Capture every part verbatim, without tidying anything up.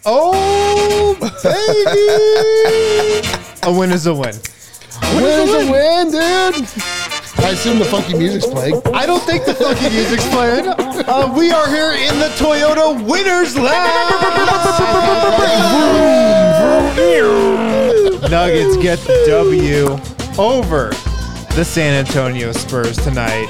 Oh, baby. A win is a win. A win is a win, dude. I assume the funky music's playing. I don't think the funky music's playing. Uh, we are here in the Toyota Winners Lounge. Nuggets get the W over the San Antonio Spurs tonight.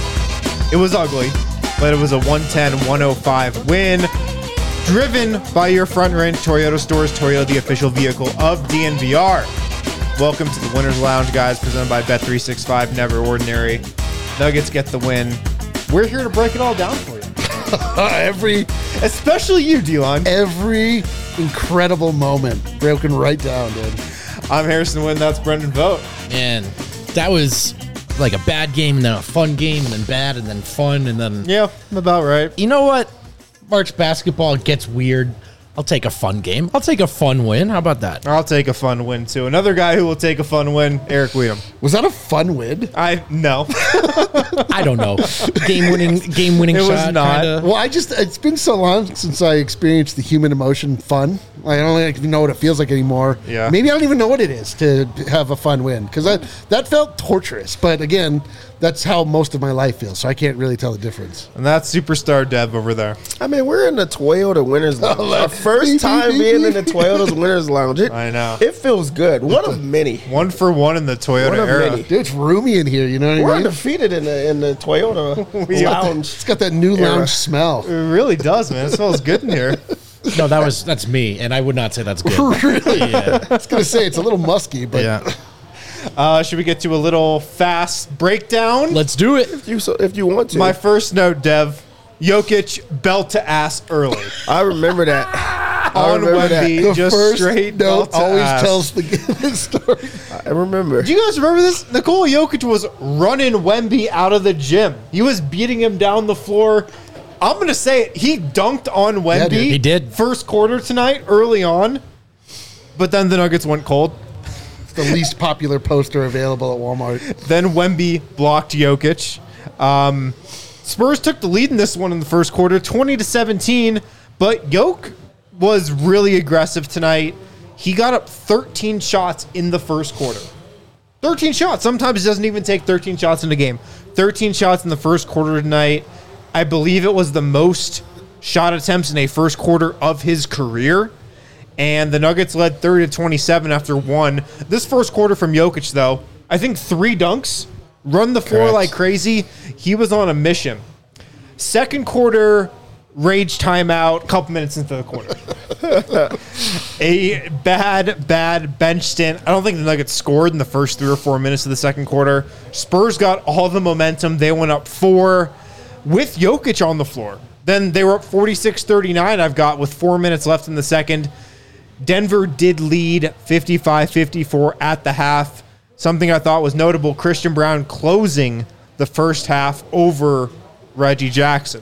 It was ugly, but it was a one ten one oh five win, driven by your front range Toyota stores. Toyota, the official vehicle of D N V R. Welcome to the Winners Lounge, guys, presented by Bet three sixty-five, Never Ordinary. Nuggets get the win. We're here to break it all down for you. every, Especially you, Delon. Every incredible moment broken right down, dude. I'm Harrison Wynn. That's Brendan Vogt. Man, that was like a bad game and then a fun game and then bad and then fun and then... Yeah, about right. You know what? March basketball gets weird. I'll take a fun game. I'll take a fun win. How about that? I'll take a fun win, too. Another guy who will take a fun win, Eric Weedham. Was that a fun win? I, no. I don't know. Game winning, game winning It was shot. not. Kinda. Well, I just, it's been so long since I experienced the human emotion fun. I don't even know what it feels like anymore. Yeah. Maybe I don't even know what it is to have a fun win because that, that felt torturous. But again, that's how most of my life feels. So I can't really tell the difference. And that's superstar Dev over there. I mean, we're in the Toyota Winners Lounge. Our first time being in the Toyota's Winners Lounge. It, I know. It feels good. One of many. One for one in the Toyota One of era. many. Dude, it's roomy in here. You know what We're I mean? undefeated in the in the Toyota We are. Lounge. It's got that new Era. lounge smell. It really does, man. It smells good in here. No, that was that's me, and I would not say that's good. Really? Yeah. I was going to say it's a little musky, but Yeah. Uh, should we get to a little fast breakdown? Let's do it. If you so, if you want to. My first note, Dev. Jokic belt to ass early. I remember that. I On remember that. Wemby, the just first straight note belt to always ass. tells the, the story. I remember. Do you guys remember this? Nikola Jokic was running Wemby out of the gym. He was beating him down the floor. I'm going to say it. He dunked on Wemby. dude. He did. First quarter tonight, early on. But then the Nuggets went cold. It's the least popular poster available at Walmart. Then Wemby blocked Jokic. Um, Spurs took the lead in this one in the first quarter, twenty to seventeen. But Jokic was really aggressive tonight. He got up thirteen shots in the first quarter. thirteen shots. Sometimes he doesn't even take thirteen shots in a game. thirteen shots in the first quarter tonight. I believe it was the most shot attempts in a first quarter of his career. And the Nuggets led thirty to twenty-seven after one. This first quarter from Jokic, though, I think three dunks, run the floor Correct. like crazy. He was on a mission. Second quarter, rage timeout, couple minutes into the quarter. A bad, bad bench stint. I don't think the Nuggets scored in the first three or four minutes of the second quarter. Spurs got all the momentum. They went up four with Jokic on the floor. Then they were up forty-six thirty-nine, I've got, with four minutes left in the second. Denver did lead fifty-five fifty-four at the half. Something I thought was notable, Christian Brown closing the first half over Reggie Jackson.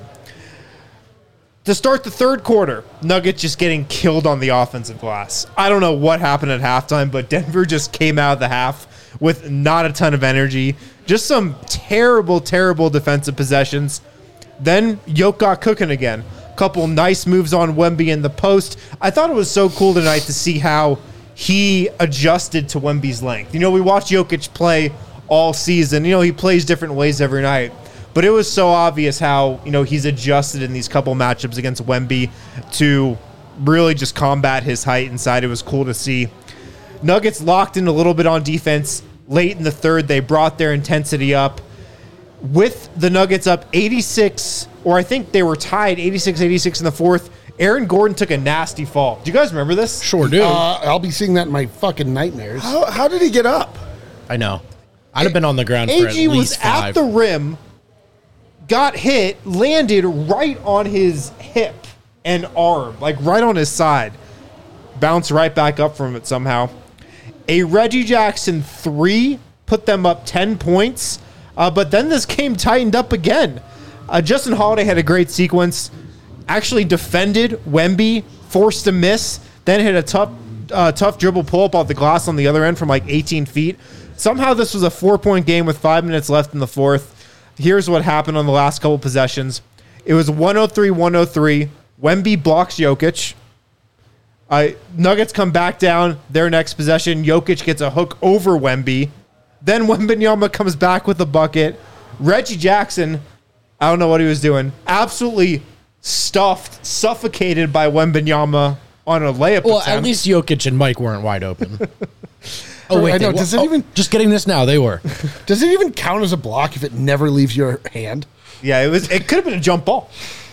To start the third quarter, Nuggets just getting killed on the offensive glass. I don't know what happened at halftime, but Denver just came out of the half with not a ton of energy. Just some terrible, terrible defensive possessions. Then Jokic got cooking again. Couple nice moves on Wemby in the post. I thought it was so cool tonight to see how he adjusted to Wemby's length. You know, we watched Jokic play all season. You know, he plays different ways every night. But it was so obvious how, you know, he's adjusted in these couple matchups against Wemby to really just combat his height inside. It was cool to see. Nuggets locked in a little bit on defense. Late in the third, they brought their intensity up. With the Nuggets up eighty-six, or I think they were tied eighty-six eighty-six in the fourth, Aaron Gordon took a nasty fall. Do you guys remember this? Sure do. Uh, I'll be seeing that in my fucking nightmares. How, how did he get up? I know. I'd have been on the ground for at A G was least at five. the rim, got hit, landed right on his hip and arm, like right on his side. Bounced right back up from it somehow. A Reggie Jackson three put them up ten points. Uh, but then this game tightened up again. Uh, Justin Holiday had a great sequence. Actually defended Wemby, forced a miss, then hit a tough uh, tough dribble pull-up off the glass on the other end from like eighteen feet. Somehow this was a four-point game with five minutes left in the fourth. Here's what happened on the last couple possessions. It was one oh three one oh three. Wemby blocks Jokic. I Nuggets come back down. Their next possession, Jokic gets a hook over Wemby. Then Wembanyama comes back with a bucket. Reggie Jackson, I don't know what he was doing, absolutely stuffed, suffocated by Wembanyama on a layup Well, attempt. at least Jokic and Mike weren't wide open. Oh wait, I know, they- does it oh, even- Just getting this now. They were. Does it even count as a block if it never leaves your hand? Yeah, it was. It could have been a jump ball.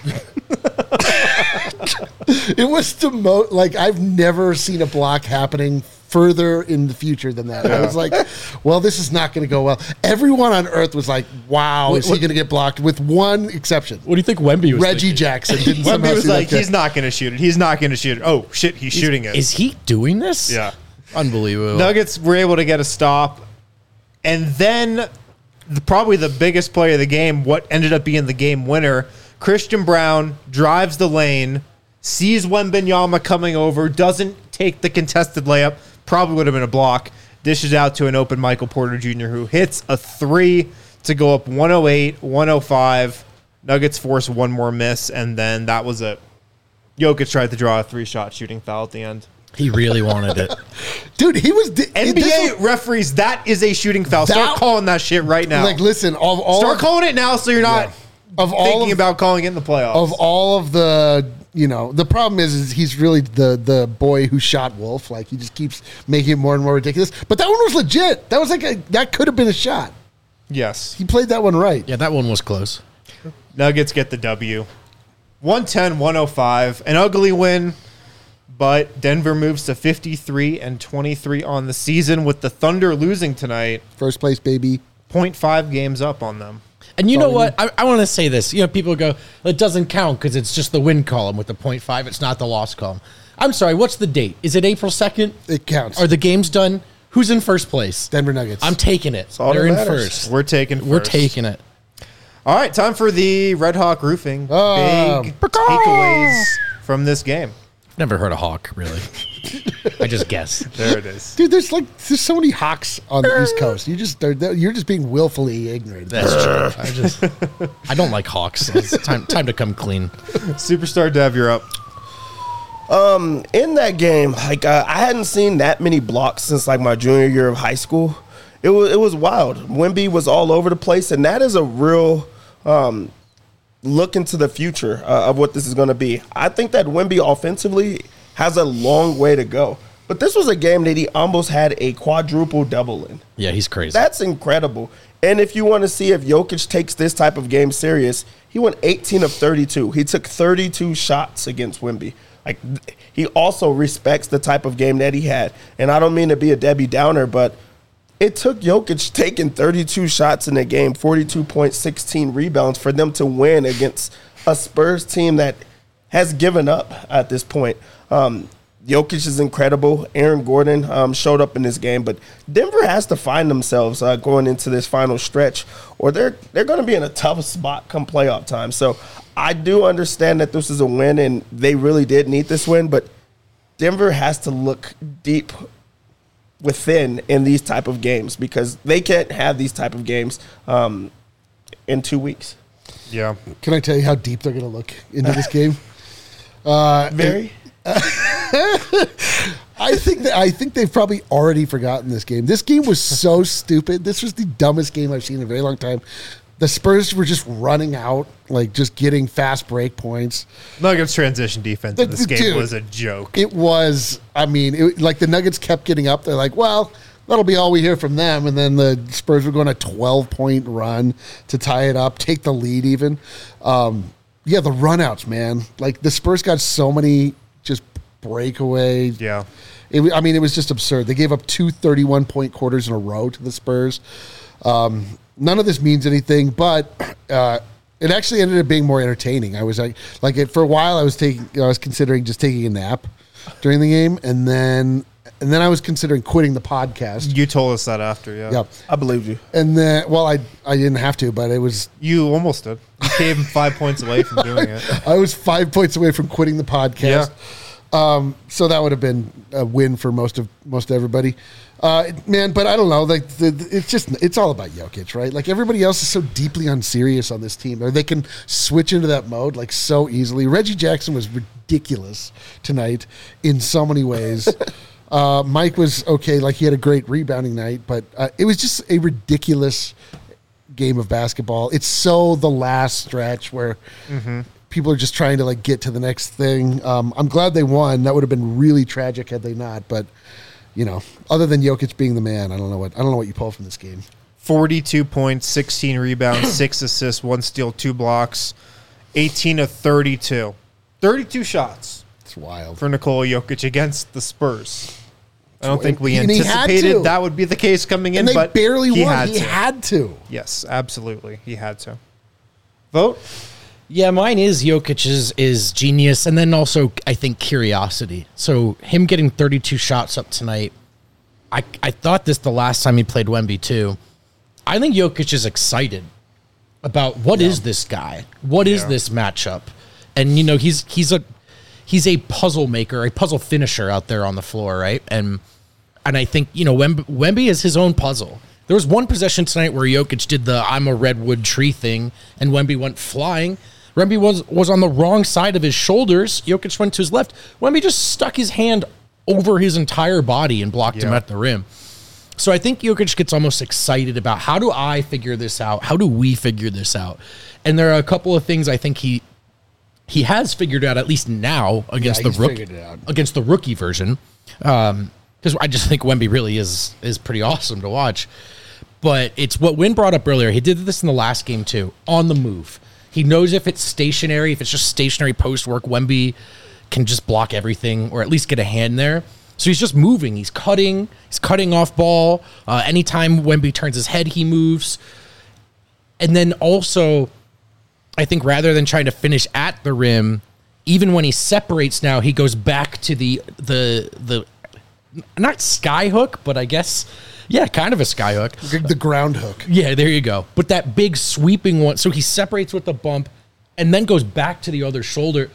It was the most, like, I've never seen a block happening further in the future than that. I was like, well, this is not going to go well. Everyone on earth was like, wow, What- is he what- going to get blocked? With one exception. What do you think Wemby was? Reggie thinking? Jackson didn't somehow Wemby was see that like, catch. he's not going to shoot it. He's not going to shoot it. Oh shit, he's shooting it. Is he doing this? Yeah. Unbelievable. Nuggets were able to get a stop, and then the, probably the biggest play of the game, what ended up being the game winner, Christian Brown drives the lane, sees Wembanyama coming over, doesn't take the contested layup, probably would have been a block, dishes out to an open Michael Porter Junior who hits a three to go up one oh eight, one oh five. Nuggets force one more miss, and then that was it. Jokic tried to draw a three-shot shooting foul at the end. He really wanted it. Dude, he was. Di- N B A this was- referees, that is a shooting foul. Start That- calling that shit right now. Like, listen, of all Start calling it now so you're not of all thinking of, about calling it in the playoffs. of all of the, you know, the problem is, is he's really the the boy who shot Wolf. Like, he just keeps making it more and more ridiculous. But that one was legit. That was like a that could have been a shot. yes. He played that one right. Yeah, that one was close. Nuggets get the W. one ten, one oh five. An ugly win, but Denver moves to fifty-three and twenty-three on the season with the Thunder losing tonight. First place, baby. point five games up on them. And you know Sorry. what? I, I want to say this. You know, people go, it doesn't count because it's just the win column with the point five. It's not the loss column. I'm sorry. What's the date? Is it April second? It counts. Are the games done? Who's in first place? Denver Nuggets. I'm taking it. all They're that in matters. first. We're taking first. We're taking it. All right, time for the Red Hawk Roofing Oh. big takeaways from this game. Never heard a hawk, really. I just guess. There it is. Dude, there's like there's so many Hawks on the East Coast. You just they're, they're- you're just being willfully ignorant. That's true. I just, I don't like hawks. It's time, time to come clean. Superstar Dev, you're up. In that game, like uh, I hadn't seen that many blocks since like my junior year of high school. It was it was wild. Wemby was all over the place, and that is a real um, look into the future uh, of what this is going to be. I think that Wemby offensively has a long way to go, but this was a game that he almost had a quadruple double in. Yeah, he's crazy. That's incredible. And if you want to see if Jokic takes this type of game serious, he went eighteen of thirty-two. He took thirty-two shots against Wemby. Like, he also respects the type of game that he had. And I don't mean to be a Debbie Downer, but it took Jokic taking thirty-two shots in the game, forty-two points, sixteen rebounds for them to win against a Spurs team that has given up at this point. Um, Jokic is incredible. Aaron Gordon um, showed up in this game, but Denver has to find themselves uh, going into this final stretch, or they're they're going to be in a tough spot come playoff time. So I do understand that this is a win, and they really did need this win, but Denver has to look deep within in these type of games because they can't have these type of games um, in two weeks. Yeah. Can I tell you how deep they're going to look into this game? Uh, Very. I think that I think they've probably already forgotten this game. This game was so stupid. This was the dumbest game I've seen in a very long time. The Spurs were just running out, like just getting fast break points. Nuggets transition defense in this game Dude, was a joke. It was, I mean, it, like the Nuggets kept getting up. They're like, well, that'll be all we hear from them. And then the Spurs were going a twelve-point run to tie it up, take the lead even. Um, yeah, the runouts, man. Like the Spurs got so many just breakaway. Yeah. It, I mean, it was just absurd. They gave up two thirty-one-point quarters in a row to the Spurs. Um, none of this means anything, but uh, it actually ended up being more entertaining. I was like, like it, for a while, I was taking, I was considering just taking a nap during the game, and then, and then I was considering quitting the podcast. You told us that after, yeah. Yep. I believe you. And then, well, I I didn't have to, but it was You almost did. You came five points away from doing it. I was five points away from quitting the podcast. Um, so that would have been a win for most of most everybody, uh, man. But I don't know. Like the, the- it's just it's all about Jokic, right? Like everybody else is so deeply unserious on this team, or they can switch into that mode like so easily. Reggie Jackson was ridiculous. ridiculous tonight in so many ways. uh, Mike was okay, like he had a great rebounding night, but uh, it was just a ridiculous game of basketball. It's so the last stretch where mm-hmm. people are just trying to like get to the next thing. Um, I'm glad they won. That would have been really tragic had they not. But you know, other than Jokic being the man, I don't know what I don't know what you pull from this game. forty-two points, sixteen rebounds, six assists, one steal, two blocks, eighteen of thirty-two. thirty-two shots. It's wild. For Nikola Jokic against the Spurs. I don't think we And he had anticipated to. that would be the case coming in, And they but barely he won. had He to. had to. Yes, absolutely. He had to. Vote? Yeah, mine is Jokic's is genius, and then also I think curiosity. So him getting thirty-two shots up tonight, I I thought this the last time he played Wemby too. I think Jokic is excited about what yeah. is this guy? What is yeah. this matchup? And you know, he's he's a he's a puzzle maker, a puzzle finisher out there on the floor, right? And and I think, you know, Wemby, Wemby is his own puzzle. There was one possession tonight where Jokic did the I'm a redwood tree thing and Wemby went flying. Wemby was was on the wrong side of his shoulders. Jokic went to his left. Wemby just stuck his hand over his entire body and blocked yeah. him at the rim. So I think Jokic gets almost excited about how do I figure this out? How do we figure this out? And there are a couple of things I think he he has figured out, at least now, against yeah, the rookie against the rookie version. Um, because I just think Wemby really is is pretty awesome to watch. But it's what Wynn brought up earlier. He did this in the last game too, on the move. He knows if it's stationary, if it's just stationary post work, Wemby can just block everything or at least get a hand there. So he's just moving. He's cutting. He's cutting off ball. Uh, anytime Wemby turns his head, he moves. And then also, I think rather than trying to finish at the rim, even when he separates now, he goes back to the the the not sky hook, but I guess yeah, kind of a sky hook. The ground hook. Yeah, there you go. But that big sweeping one. So he separates with the bump and then goes back to the other shoulder,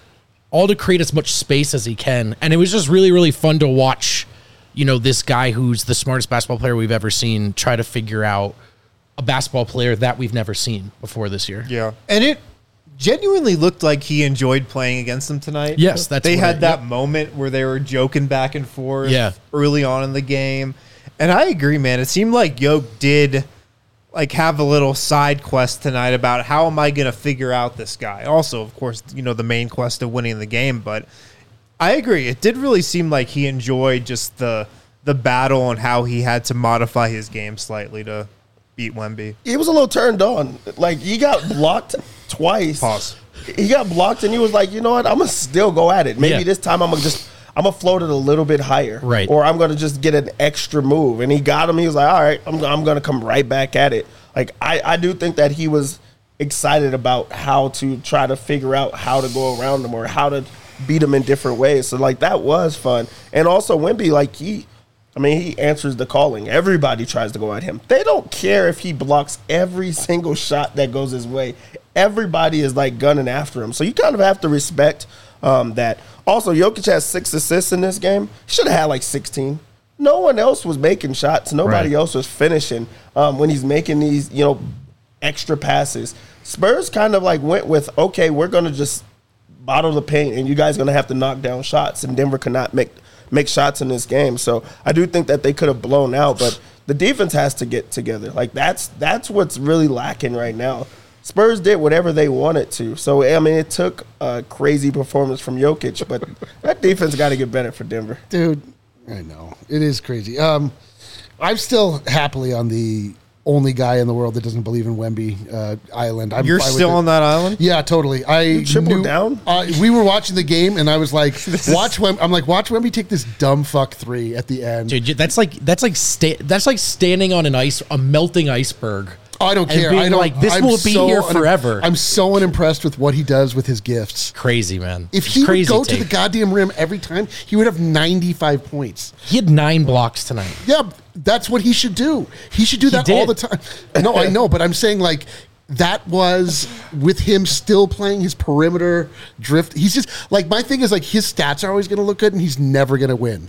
all to create as much space as he can. And it was just really, really fun to watch, you know, this guy who's the smartest basketball player we've ever seen try to figure out a basketball player that we've never seen before this year. Yeah. And it genuinely looked like he enjoyed playing against them tonight. Yes, that's They what had I- that yep. moment where they were joking back and forth Yeah. early on in the game. And I agree, man. It seemed like Yoke did like have a little side quest tonight about how am I going to figure out this guy. Also, of course, you know, the main quest of winning the game, but I agree. It did really seem like he enjoyed just the the battle and how he had to modify his game slightly to beat Wemby. He was a little turned on. Like, he got blocked twice. Pause. He got blocked, and he was like, you know what? I'm going to still go at it. Maybe Yeah. this time I'm going to just – I'm going to float it a little bit higher. Right. Or I'm going to just get an extra move. And he got him. He was like, all right, I'm, I'm going to come right back at it. Like, I, I do think that he was excited about how to try to figure out how to go around him or how to beat him in different ways. So, like, that was fun. And also, Wemby, like, he – I mean, he answers the calling. Everybody tries to go at him. They don't care if he blocks every single shot that goes his way. Everybody is, like, gunning after him. So you kind of have to respect um, that. Also, Jokic has six assists in this game. He should have had, like, sixteen. No one else was making shots. Nobody Right. else was finishing um, when he's making these, you know, extra passes. Spurs kind of, like, went with, okay, we're going to just bottle the paint, and you guys are going to have to knock down shots, and Denver cannot make – make shots in this game. So I do think that they could have blown out, but the defense has to get together. Like, that's that's what's really lacking right now. Spurs did whatever they wanted to. So, I mean, it took a crazy performance from Jokic, but that defense got to get better for Denver. Dude, I know. It is crazy. Um, I'm still happily on the only guy in the world that doesn't believe in Wemby uh, Island. I'm You're fine with still it. on that island? Yeah, totally. I You tripled knew- down? Uh, we were watching the game, and I was like, "Watch Wem." I'm like, "Watch Wemby take this dumb fuck three at the end." Dude, that's like that's like sta- that's like standing on an ice, a melting iceberg. Oh, I don't and care. being I don't like, this I'm will be here un- forever. I'm so unimpressed with what he does with his gifts. Crazy, man. If It's he would crazy go to take. the goddamn rim every time, he would have ninety-five points. He had nine blocks tonight. Yeah, that's what he should do. He should do He that all did. the time. No, I know, but I'm saying like that was with him still playing his perimeter drift. He's just like my thing is like his stats are always going to look good, and he's never going to win.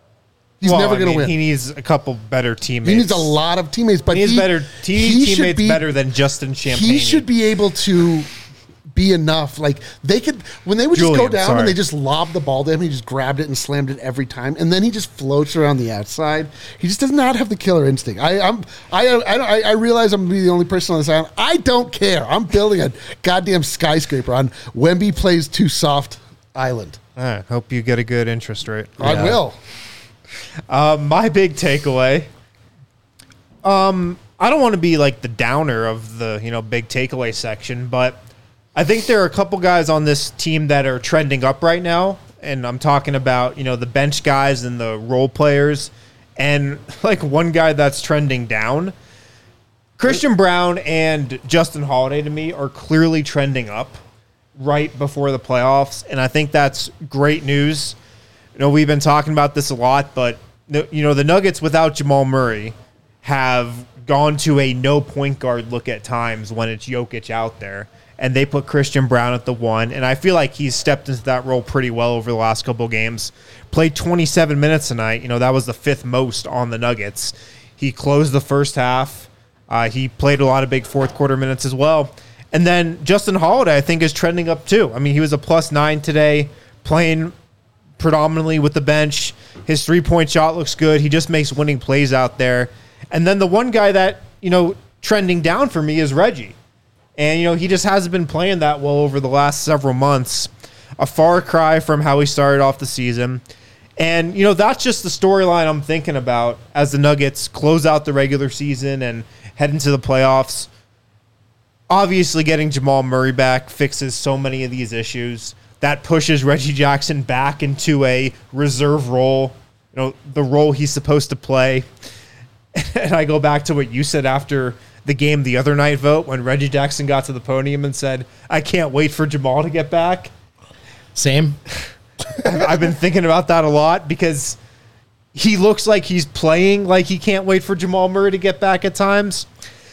He's Well, never I going to mean, win. He He, needs a couple better teammates. needs a lot of teammates, but He needs he, better. He he needs should teammates be- better than Justin Champagne. He should be able to be enough. Like they could, when they would just Julian, go down sorry. and they just lobbed the ball to him, he just grabbed it and slammed it every time, and then he just floats around the outside. He just does not have the killer instinct. I, I'm, I, I, I realize I'm gonna be the only person on this island. I don't care. I'm building a goddamn skyscraper on Wemby plays too soft island. All right, hope you get a good interest rate. I will. Uh, my big takeaway. Um, I don't want to be like the downer of the you know big takeaway section, but I think there are a couple guys on this team that are trending up right now, and I'm talking about you know the bench guys and the role players, and like one guy that's trending down. Christian Brown and Justin Holiday to me are clearly trending up right before the playoffs, and I think that's great news. You know, we've been talking about this a lot, but you know the Nuggets without Jamal Murray have gone to a no point guard look at times when it's Jokic out there, and they put Christian Brown at the one, and I feel like he's stepped into that role pretty well over the last couple of games. Played twenty-seven minutes tonight. You know, that was the fifth most on the Nuggets. He closed the first half. Uh, he played a lot of big fourth quarter minutes as well. And then Justin Holiday, I think, is trending up too. I mean, he was a plus nine today, playing predominantly with the bench. His three-point shot looks good. He just makes winning plays out there. And then the one guy that, you know, trending down for me is Reggie. And, you know, he just hasn't been playing that well over the last several months. A far cry from how he started off the season. And, you know, that's just the storyline I'm thinking about as the Nuggets close out the regular season and head into the playoffs. Obviously, getting Jamal Murray back fixes so many of these issues. That pushes Reggie Jackson back into a reserve role, you know, the role he's supposed to play. And I go back to what you said after the game the other night, Vote, when Reggie Jackson got to the podium and said, I can't wait for Jamal to get back. Same. I've, I've been thinking about that a lot because he looks like he's playing like he can't wait for Jamal Murray to get back at times.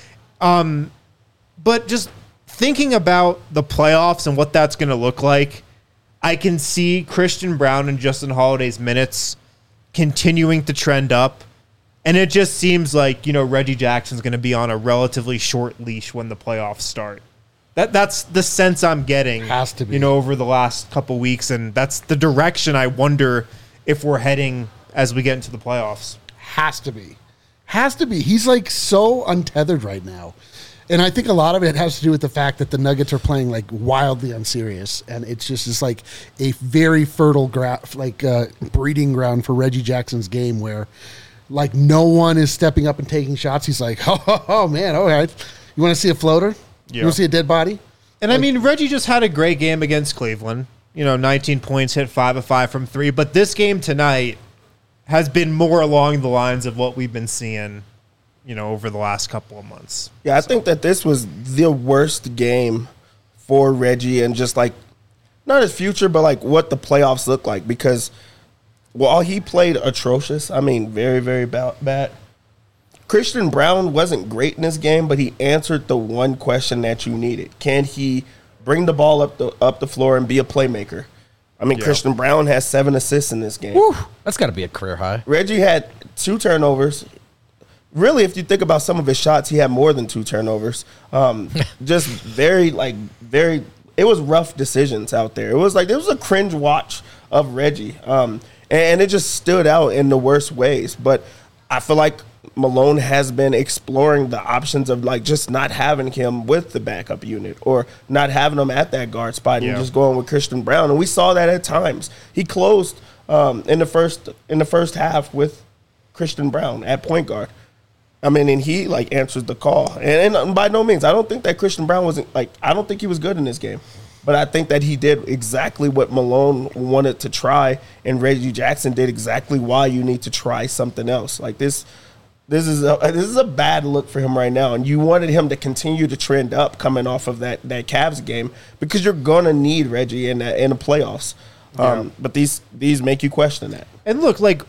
Um, but just thinking about the playoffs and what that's going to look like, I can see Christian Brown and Justin Holiday's minutes continuing to trend up. And it just seems like, you know, Reggie Jackson's going to be on a relatively short leash when the playoffs start. That That's the sense I'm getting, Has to be. you know, over the last couple weeks. And that's the direction I wonder if we're heading as we get into the playoffs. Has to be. Has to be. He's like so untethered right now. And I think a lot of it has to do with the fact that the Nuggets are playing like wildly unserious, and it's just it's like a very fertile gra- like uh, breeding ground for Reggie Jackson's game, where like no one is stepping up and taking shots. He's like, oh, oh, oh man, all right, you want to see a floater? Yeah. You want to see a dead body? And I mean, Reggie just had a great game against Cleveland. You know, nineteen points, hit five of five from three. But this game tonight has been more along the lines of what we've been seeing, you know, over the last couple of months. Yeah, I think that this was the worst game for Reggie and just like not his future, but like what the playoffs look like, because while he played atrocious, I mean, very, very bad. Christian Brown wasn't great in this game, but he answered the one question that you needed. Can he bring the ball up the up the floor and be a playmaker? I mean, Yeah. Christian Brown has seven assists in this game. Whew, that's got to be a career high. Reggie had two turnovers. Really, if you think about some of his shots, he had more than two turnovers. Um, just very, like, very – it was rough decisions out there. It was like – it was a cringe watch of Reggie. Um, and it just stood out in the worst ways. But I feel like Malone has been exploring the options of, like, just not having him with the backup unit or not having him at that guard spot Yeah. and just going with Christian Brown. And we saw that at times. He closed um, in the first in the first half with Christian Brown at point guard. I mean, and he, like, answers the call. And, and by no means, I don't think that Christian Brown wasn't, like, I don't think he was good in this game. But I think that he did exactly what Malone wanted to try, and Reggie Jackson did exactly why you need to try something else. Like, this this is a, this is a bad look for him right now. And you wanted him to continue to trend up coming off of that, that Cavs game because you're going to need Reggie in, the, in the playoffs. Um, but these these make you question that. And look, like,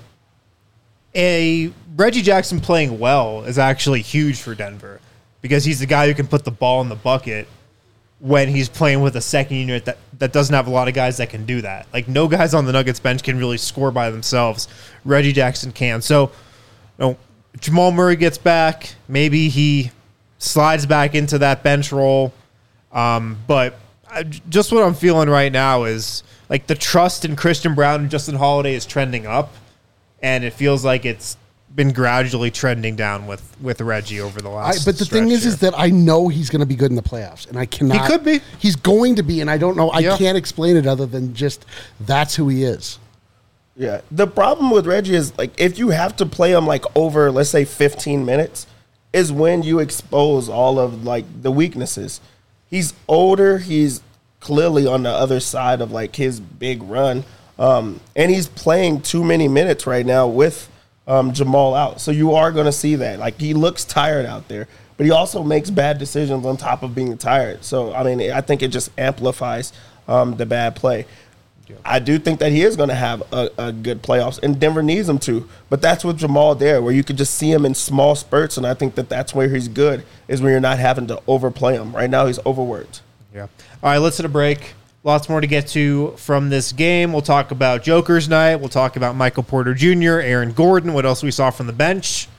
a Reggie Jackson playing well is actually huge for Denver because he's the guy who can put the ball in the bucket when he's playing with a second unit that, that doesn't have a lot of guys that can do that. Like, no guys on the Nuggets bench can really score by themselves. Reggie Jackson can. So, you know, Jamal Murray gets back. Maybe he slides back into that bench role. Um, but I, just what I'm feeling right now is like the trust in Christian Braun and Justin Holiday is trending up, and it feels like it's been gradually trending down with, with Reggie over the I, last. but the thing is, here. is that I know he's going to be good in the playoffs, and I cannot. He could be. He's going to be, and I don't know. I Yeah. can't explain it other than just that's who he is. Yeah. The problem with Reggie is like if you have to play him like over, let's say fifteen minutes, is when you expose all of like the weaknesses. He's older. He's clearly on the other side of like his big run. Um, and he's playing too many minutes right now with um, Jamal out. So you are going to see that. Like he looks tired out there, but he also makes bad decisions on top of being tired. So, I mean, I think it just amplifies um, the bad play. I do think that he is going to have a, a good playoffs, and Denver needs him to. But that's with Jamal there, where you could just see him in small spurts, and I think that that's where he's good, is when you're not having to overplay him. Right now, he's overworked. Yeah. All right, let's hit a break. Lots more to get to from this game. We'll talk about Joker's night. We'll talk about Michael Porter Junior, Aaron Gordon, what else we saw from the bench.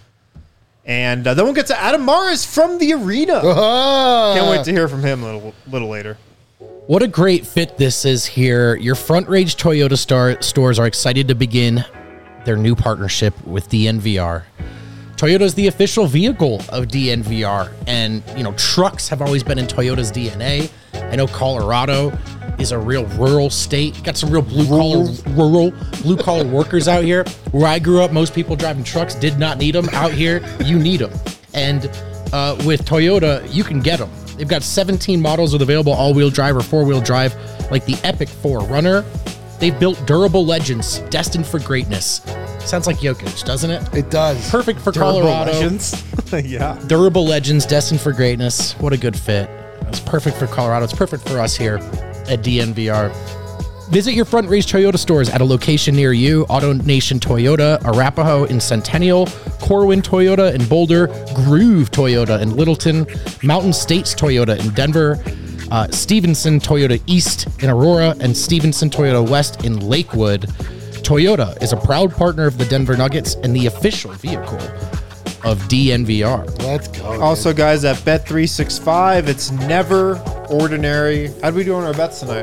And uh, then we'll get to Adam Mares from the arena. Ah. Can't wait to hear from him a little, little later. What a great fit this is here. Your Front Range Toyota star- stores are excited to begin their new partnership with D N V R. Toyota is the official vehicle of D N V R, and you know trucks have always been in Toyota's D N A. I know Colorado is a real rural state. Got some real blue collar, rural blue collar workers out here. Where I grew up, most people driving trucks did not need them. Out here, you need them, and uh, with Toyota, you can get them. They've got seventeen models with available all-wheel drive or four-wheel drive, like the Epic four Runner. They've built durable legends destined for greatness. Sounds like Jokic, doesn't it? It does. Perfect for Durable Colorado. Legends. Yeah. Durable legends destined for greatness. What a good fit. It's perfect for Colorado. It's perfect for us here at D N V R. Visit your Front Range Toyota stores at a location near you. Auto Nation Toyota, Arapahoe in Centennial, Corwin Toyota in Boulder, Groove Toyota in Littleton, Mountain States Toyota in Denver, uh, Stevenson Toyota East in Aurora, and Stevenson Toyota West in Lakewood. Toyota is a proud partner of the Denver Nuggets and the official vehicle of D N V R. Let's go. Also, guys, at Bet three sixty-five, it's never ordinary. How'd we do on our bets tonight?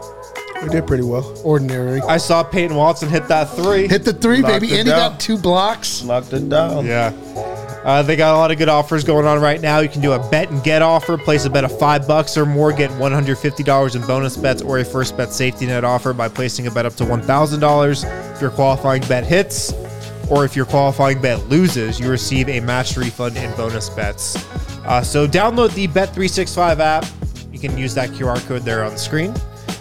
We did pretty well. Ordinary. I saw Peyton Watson hit that three. Hit the three, Knocked baby. it And he down. got two blocks. Knocked it down. Yeah. Uh, they got a lot of good offers going on right now. You can do a bet and get offer. Place a bet of five bucks or more, get one hundred fifty dollars in bonus bets, or a first bet safety net offer by placing a bet up to one thousand dollars. If your qualifying bet hits, or if your qualifying bet loses, you receive a match refund in bonus bets. Uh, so download the Bet three sixty-five app. You can use that Q R code there on the screen.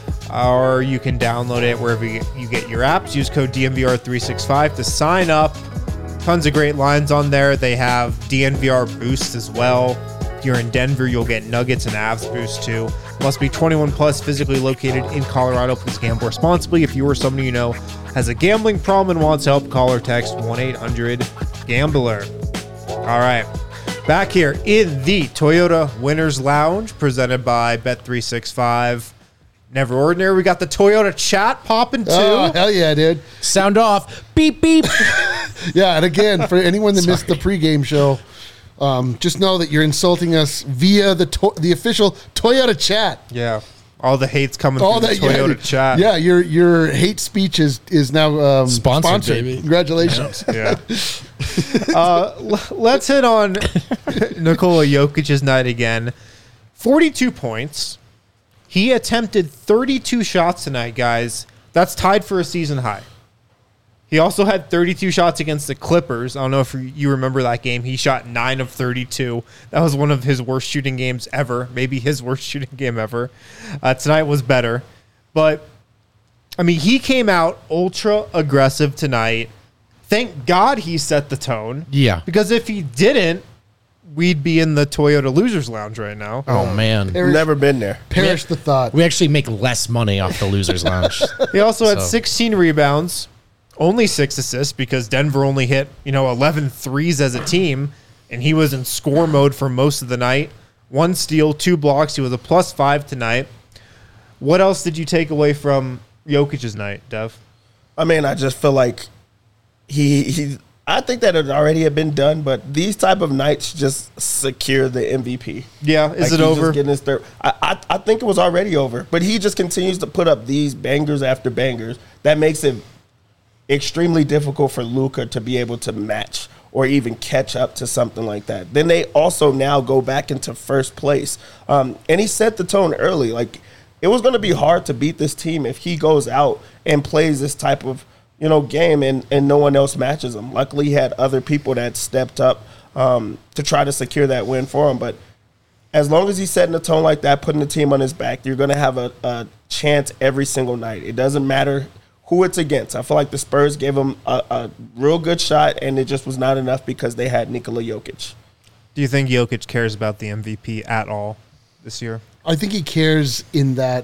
Or you can download it wherever you you get your apps. Use code D N V R three sixty-five to sign up. Tons of great lines on there. They have D N V R Boost as well. If you're in Denver, you'll get Nuggets and Avs Boost too. Must be twenty-one plus, physically located in Colorado. Please gamble responsibly. If you or somebody you know has a gambling problem and wants help, call or text one eight hundred gambler. All right. Back here in the Toyota Winners Lounge, presented by Bet three sixty-five. Never ordinary. We got the Toyota chat popping too. Oh, hell yeah, dude. Sound off. Beep, beep. Yeah, and again, for anyone that missed the pregame show, um, just know that you're insulting us via the to- the official Toyota chat. Yeah. All the hate's coming All through that the Toyota yeah, chat. Yeah, your your hate speech is is now um, Sponsored, sponsored. baby. Congratulations. Yeah. uh, l- let's hit on Nikola Jokic's night again. forty-two points. He attempted thirty-two shots tonight, guys. That's tied for a season high. He also had thirty-two shots against the Clippers. I don't know if you remember that game. He shot nine of thirty-two. That was one of his worst shooting games ever. Maybe his worst shooting game ever. Uh, tonight was better. But, I mean, he came out ultra aggressive tonight. Thank God he set the tone. Yeah. Because if he didn't, we'd be in the Toyota Losers Lounge right now. Oh, man. Perish, Never been there. perish the thought. We actually make less money off the Losers Lounge. He also had So- sixteen rebounds, only six assists because Denver only hit, you know, eleven threes as a team, and he was in score mode for most of the night. One steal, two blocks. He was a plus five tonight. What else did you take away from Jokic's night, Dev? I mean, I just feel like he he I think that it already had been done, but these type of nights just secure the M V P. Yeah, is Like, it he's over? Just getting his third. I, I I think it was already over, but he just continues to put up these bangers after bangers. That makes it extremely difficult for Luka to be able to match or even catch up to something like that. Then they also now go back into first place, um, and he set the tone early. Like, it was going to be hard to beat this team if he goes out and plays this type of, you know, game and, and no one else matches him. Luckily, he had other people that stepped up um, to try to secure that win for him. But as long as he's setting the tone like that, putting the team on his back, you're going to have a, a chance every single night. It doesn't matter who it's against. I feel like the Spurs gave him a, a real good shot, and it just was not enough because they had Nikola Jokic. Do you think Jokic cares about the M V P at all this year? I think he cares in that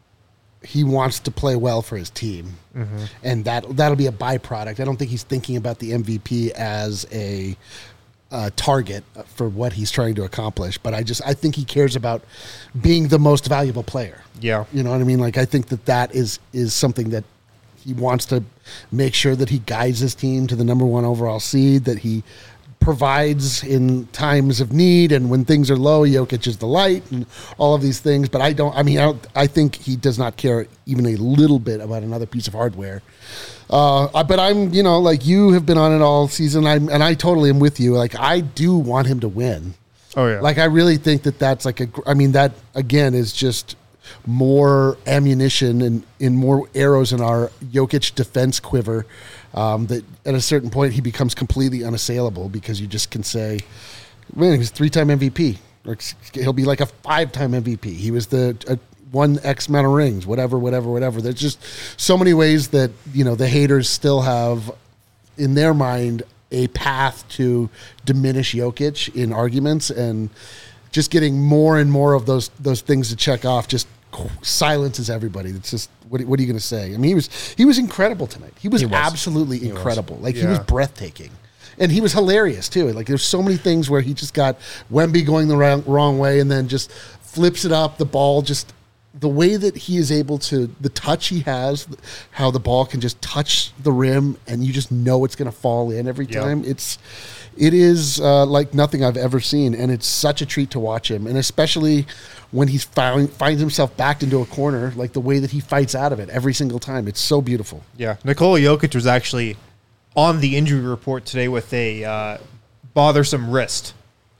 he wants to play well for his team, mm-hmm. and that that'll be a byproduct. I don't think he's thinking about the M V P as a uh, target for what he's trying to accomplish. But I just I think he cares about being the most valuable player. Yeah, you know what I mean. Like I think that that is is something that he wants to make sure that he guides his team to the number one overall seed. That he provides in times of need, and when things are low, Jokic is the light, and all of these things. But I don't. I mean, I, don't, I think he does not care even a little bit about another piece of hardware. Uh, but I'm, you know, like you have been on it all season, I'm, and I totally am with you. Like I do want him to win. Oh yeah. Like I really think that that's like a. I mean, that again is just more ammunition and in more arrows in our Jokic defense quiver. Um, that at a certain point he becomes completely unassailable because you just can say, man, he's three-time M V P. Or he'll be like a five-time M V P. He was the uh, one X amount of rings, whatever, whatever, whatever. There's just so many ways that, you know, the haters still have in their mind a path to diminish Jokic in arguments, and just getting more and more of those those things to check off just silences everybody. It's just what, what are you going to say? I mean, he was he was incredible tonight. He was, He was. absolutely He incredible. was. Like he Yeah. was breathtaking, and he was hilarious too. Like there's so many things where he just got Wemby going the wrong, wrong way, and then just flips it up. The ball just the way that he is able to the touch he has, how the ball can just touch the rim, and you just know it's going to fall in every Yeah. time. It's it is uh, like nothing I've ever seen, and it's such a treat to watch him, and especially when he found, finds himself backed into a corner, like the way that he fights out of it every single time. It's so beautiful. Yeah, Nikola Jokic was actually on the injury report today with a uh, bothersome wrist.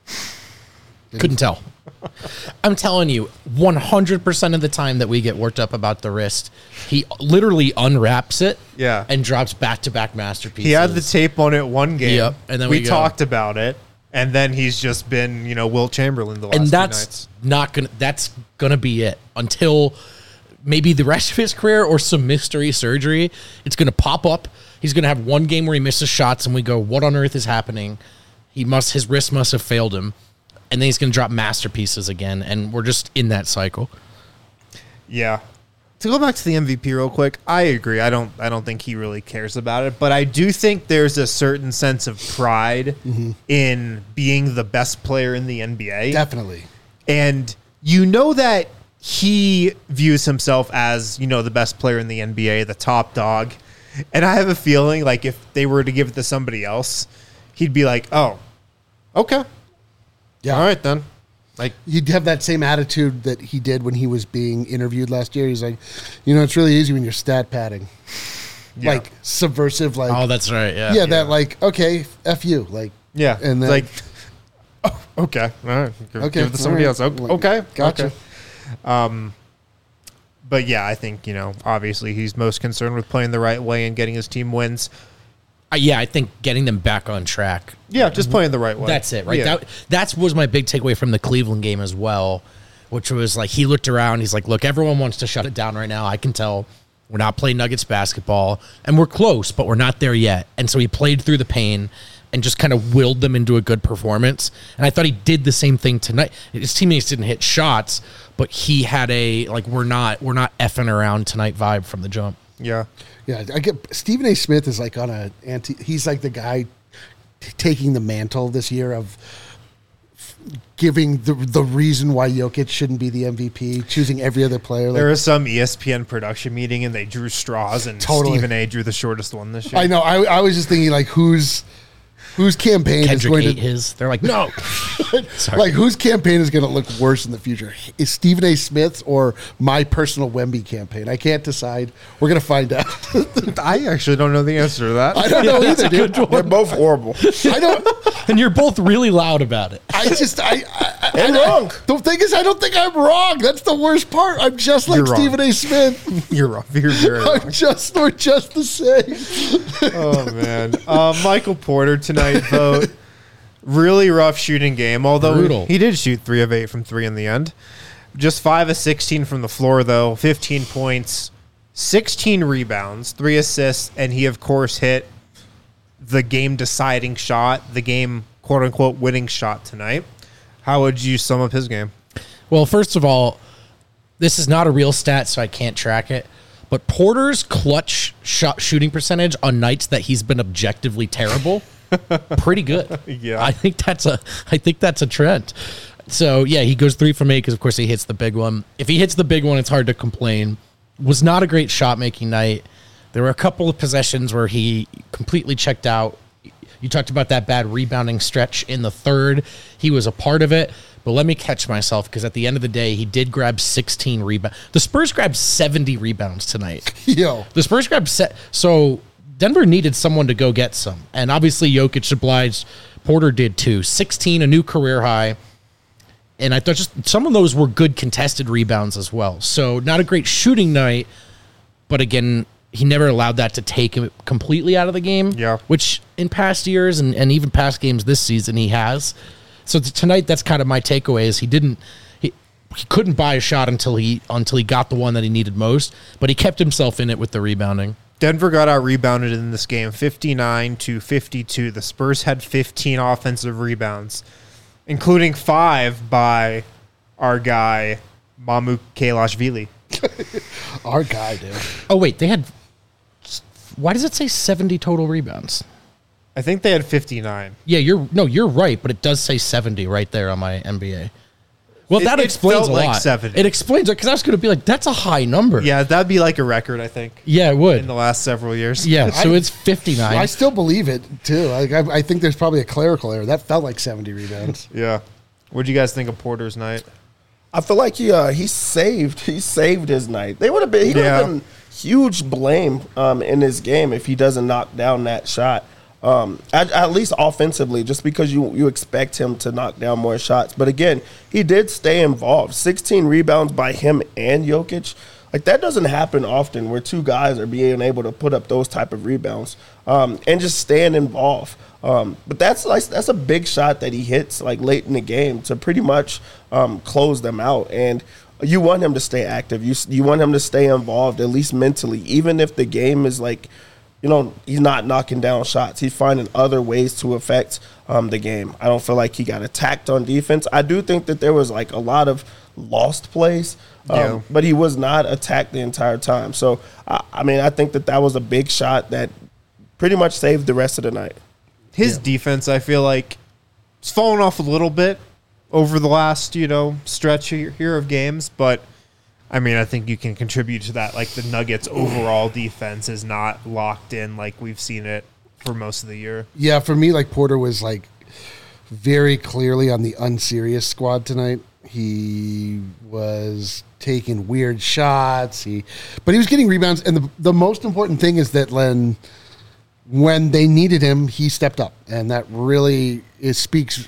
Couldn't tell. I'm telling you, one hundred percent of the time that we get worked up about the wrist, he literally unwraps it Yeah. and drops back-to-back masterpieces. He had the tape on it one game. Yep, and then we, we go. talked about it, and then he's just been, you know, Wilt Chamberlain the last and few that's nights. not gonna that's gonna be it until maybe the rest of his career or some mystery surgery. It's gonna pop up. He's gonna have one game where he misses shots, and we go, "What on earth is happening?" He must his wrist must have failed him, and then he's gonna drop masterpieces again, and we're just in that cycle. Yeah. To go back to the M V P real quick, I agree. I don't I don't think he really cares about it, but I do think there's a certain sense of pride Mm-hmm. in being the best player in the N B A. Definitely. And you know that he views himself as, you know, the best player in the N B A, the top dog. And I have a feeling like if they were to give it to somebody else, he'd be like, "Oh, okay. Yeah. All right then." Like, He'd have that same attitude that he did when he was being interviewed last year. He's like, you know, it's really easy when you're stat padding. yeah. Like subversive, like Oh, that's right. Yeah. yeah, that like, okay, F you. Like yeah. and it's then like, oh, okay. All right. Give, okay, give it to somebody all else. right. Okay. okay. Gotcha. Okay. Um, but yeah, I think, you know, obviously he's most concerned with playing the right way and getting his team wins. Uh, yeah, I think getting them back on track. Yeah, just playing the right way. That's it, right? Yeah. That that's was my big takeaway from the Cleveland game as well, which was like he looked around. He's like, "Look, everyone wants to shut it down right now. I can tell we're not playing Nuggets basketball, and we're close, but we're not there yet." And so he played through the pain and just kind of willed them into a good performance. And I thought he did the same thing tonight. His teammates didn't hit shots, but he had a like we're not we're not effing around tonight vibe from the jump. Yeah. yeah, I get Stephen A. Smith is like on a anti. He's like the guy t- taking the mantle this year of f- giving the the reason why Jokic shouldn't be the M V P, choosing every other player. Like, There was some E S P N production meeting and they drew straws and Totally. Stephen A drew the shortest one this year. I know. I, I was just thinking like, who's whose campaign Kendrick is going ate to his. They're like, no. Sorry. like whose campaign is going to look worse in the future? Is Stephen A. Smith's or my personal Wemby campaign? I can't decide. We're going to find out. I actually don't know the answer to that. I don't know That's either, a good dude. one. They're both horrible. I don't. And you're both really loud about it. I just. I. I, And I wrong. The thing is, I don't think I'm wrong. That's the worst part. I'm just like You're wrong. Stephen A. Smith. You're wrong. You're very wrong. I'm just. We're just the same. Oh man, uh, Michael Porter tonight vote. Really rough shooting game. Although Brutal. he did shoot three of eight from three in the end. Just five of sixteen from the floor though. Fifteen points, sixteen rebounds, three assists, and he of course hit the game deciding shot, the game quote unquote winning shot tonight. How would you sum up his game? Well, first of all, this is not a real stat, so I can't track it. But Porter's clutch shot shooting percentage on nights that he's been objectively terrible, pretty good. Yeah. I think that's a I think that's a trend. So yeah, he goes three from eight because of course he hits the big one. If he hits the big one, it's hard to complain. Was not a great shot making night. There were a couple of possessions where he completely checked out. You talked about that bad rebounding stretch in the third. He was a part of it. But let me catch myself because at the end of the day, he did grab sixteen rebounds. The Spurs grabbed seventy rebounds tonight. Yo. The Spurs grabbed set. So Denver needed someone to go get some. And obviously Jokic obliged. Porter did too. sixteen, a new career high. And I thought just some of those were good contested rebounds as well. So not a great shooting night. But again, he never allowed that to take him completely out of the game. Yeah. Which in past years and, and even past games this season, he has. So t- tonight, that's kind of my takeaway is he didn't, he, he couldn't buy a shot until he until he got the one that he needed most, but he kept himself in it with the rebounding. Denver got out rebounded in this game, fifty-nine to fifty-two. The Spurs had fifteen offensive rebounds, including five by our guy Mamu Kelashvili. Our guy, dude. Oh wait, they had. Why does it say seventy total rebounds? I think they had fifty-nine. Yeah, you're no, you're right, but it does say seventy right there on my N B A. Well, It- that it explains felt a like lot. seventy. It explains it because I was going to be like, that's a high number. Yeah, that'd be like a record, I think, yeah, it in would. the last several years. Yeah, so I- it's fifty-nine. I still believe it too. Like I, I think there's probably a clerical error. That felt like seventy rebounds. Yeah. What'd you guys think of Porter's night? I feel like he uh, he saved he saved his night. They would have been he would Yeah. have been huge blame um, in this game if he doesn't knock down that shot. Um, at, at least offensively, just because you you expect him to knock down more shots. But again, he did stay involved. sixteen rebounds by him and Jokic. Like that doesn't happen often where two guys are being able to put up those type of rebounds um, and just staying involved. Um, but that's like that's a big shot that he hits like late in the game to pretty much um, close them out. And you want him to stay active. You you want him to stay involved at least mentally, even if the game is like, you know, he's not knocking down shots. He's finding other ways to affect um, the game. I don't feel like he got attacked on defense. I do think that there was like a lot of lost plays, um, Yeah. but he was not attacked the entire time. So, I, I mean, I think that that was a big shot that pretty much saved the rest of the night. His defense, I feel like, it's fallen off a little bit over the last, you know, stretch here here of games, but I mean, I think you can contribute to that. Like the Nuggets' overall defense is not locked in like we've seen it for most of the year. Yeah, for me, like Porter was like very clearly on the unserious squad tonight. He was taking weird shots. He, but he was getting rebounds, and the the most important thing is that Len, when they needed him, he stepped up, and that really it speaks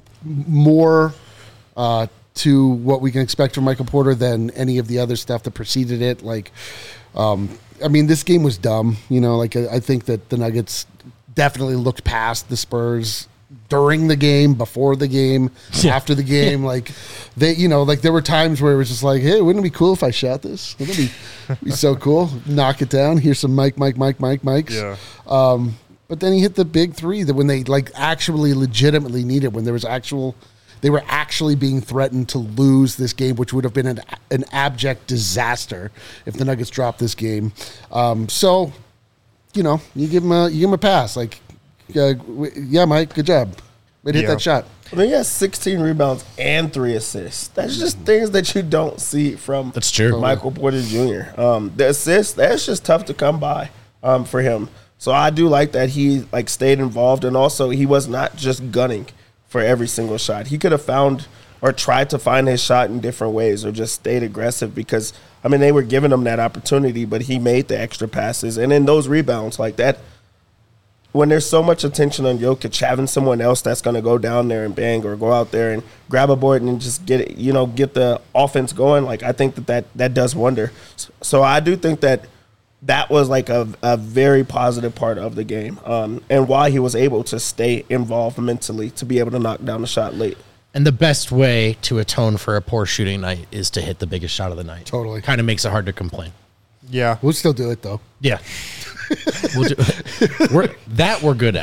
more uh, to what we can expect from Michael Porter than any of the other stuff that preceded it. Like, um, I mean, this game was dumb. You know, like I, I think that the Nuggets definitely looked past the Spurs during the game, before the game, Yeah. after the game. Like they, you know, like there were times where it was just like, hey, wouldn't it be cool if I shot this? Wouldn't it be, be so cool? Knock it down. Here's some Mike, Mike, Mike, Mike, Mikes. Yeah. Um, but then he hit the big three that when they like actually legitimately needed, when there was actual, they were actually being threatened to lose this game, which would have been an, an abject disaster if the Nuggets dropped this game. Um, so, you know, you give him a, you give him a pass. Like, uh, w- yeah, Mike, good job. Way to hit Yeah. that shot. I mean, he has sixteen rebounds and three assists. That's just things that you don't see from That's true. Michael Porter Junior Um, the assists, that's just tough to come by um, for him. So I do like that he like stayed involved, and also he was not just gunning for every single shot. He could have found or tried to find his shot in different ways, or just stayed aggressive because, I mean, they were giving him that opportunity, but he made the extra passes. And then those rebounds like that, when there's so much attention on Jokic, having someone else that's going to go down there and bang or go out there and grab a board and just get it, you know, get the offense going, like I think that that, that does wonder. So I do think that that was like a, a very positive part of the game, um, and why he was able to stay involved mentally to be able to knock down the shot late. And the best way to atone for a poor shooting night is to hit the biggest shot of the night. Totally. Kind of makes it hard to complain. Yeah. We'll still do it, though. Yeah. we'll do, we're, that we're good at.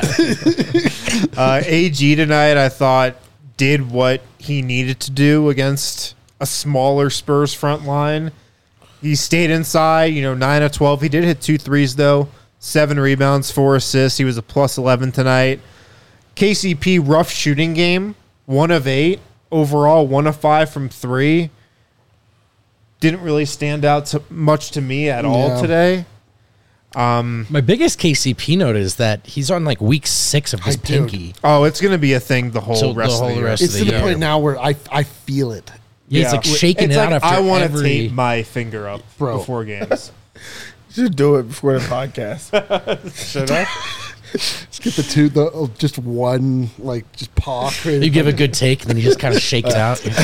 Uh, A G tonight, I thought, did what he needed to do against a smaller Spurs front line. He stayed inside, you know, nine of twelve. He did hit two threes, though. Seven rebounds, four assists. He was a plus eleven tonight. K C P, rough shooting game. One of eight. Overall, one of five from three. Didn't really stand out to, much to me at all Yeah. today. My biggest K C P note is that he's on like week six of his I do. pinky. Oh, it's going to be a thing the whole So the rest whole of the year. rest It's of to the the year. point now where I I feel it. Yeah, he's like shaking it's it like out after I want to every. tape my finger up Bro. before games. You should do it before the podcast. Should I? Just get the two, the oh, just one, like just paw. You give a good take, and then he just kind of shakes out. But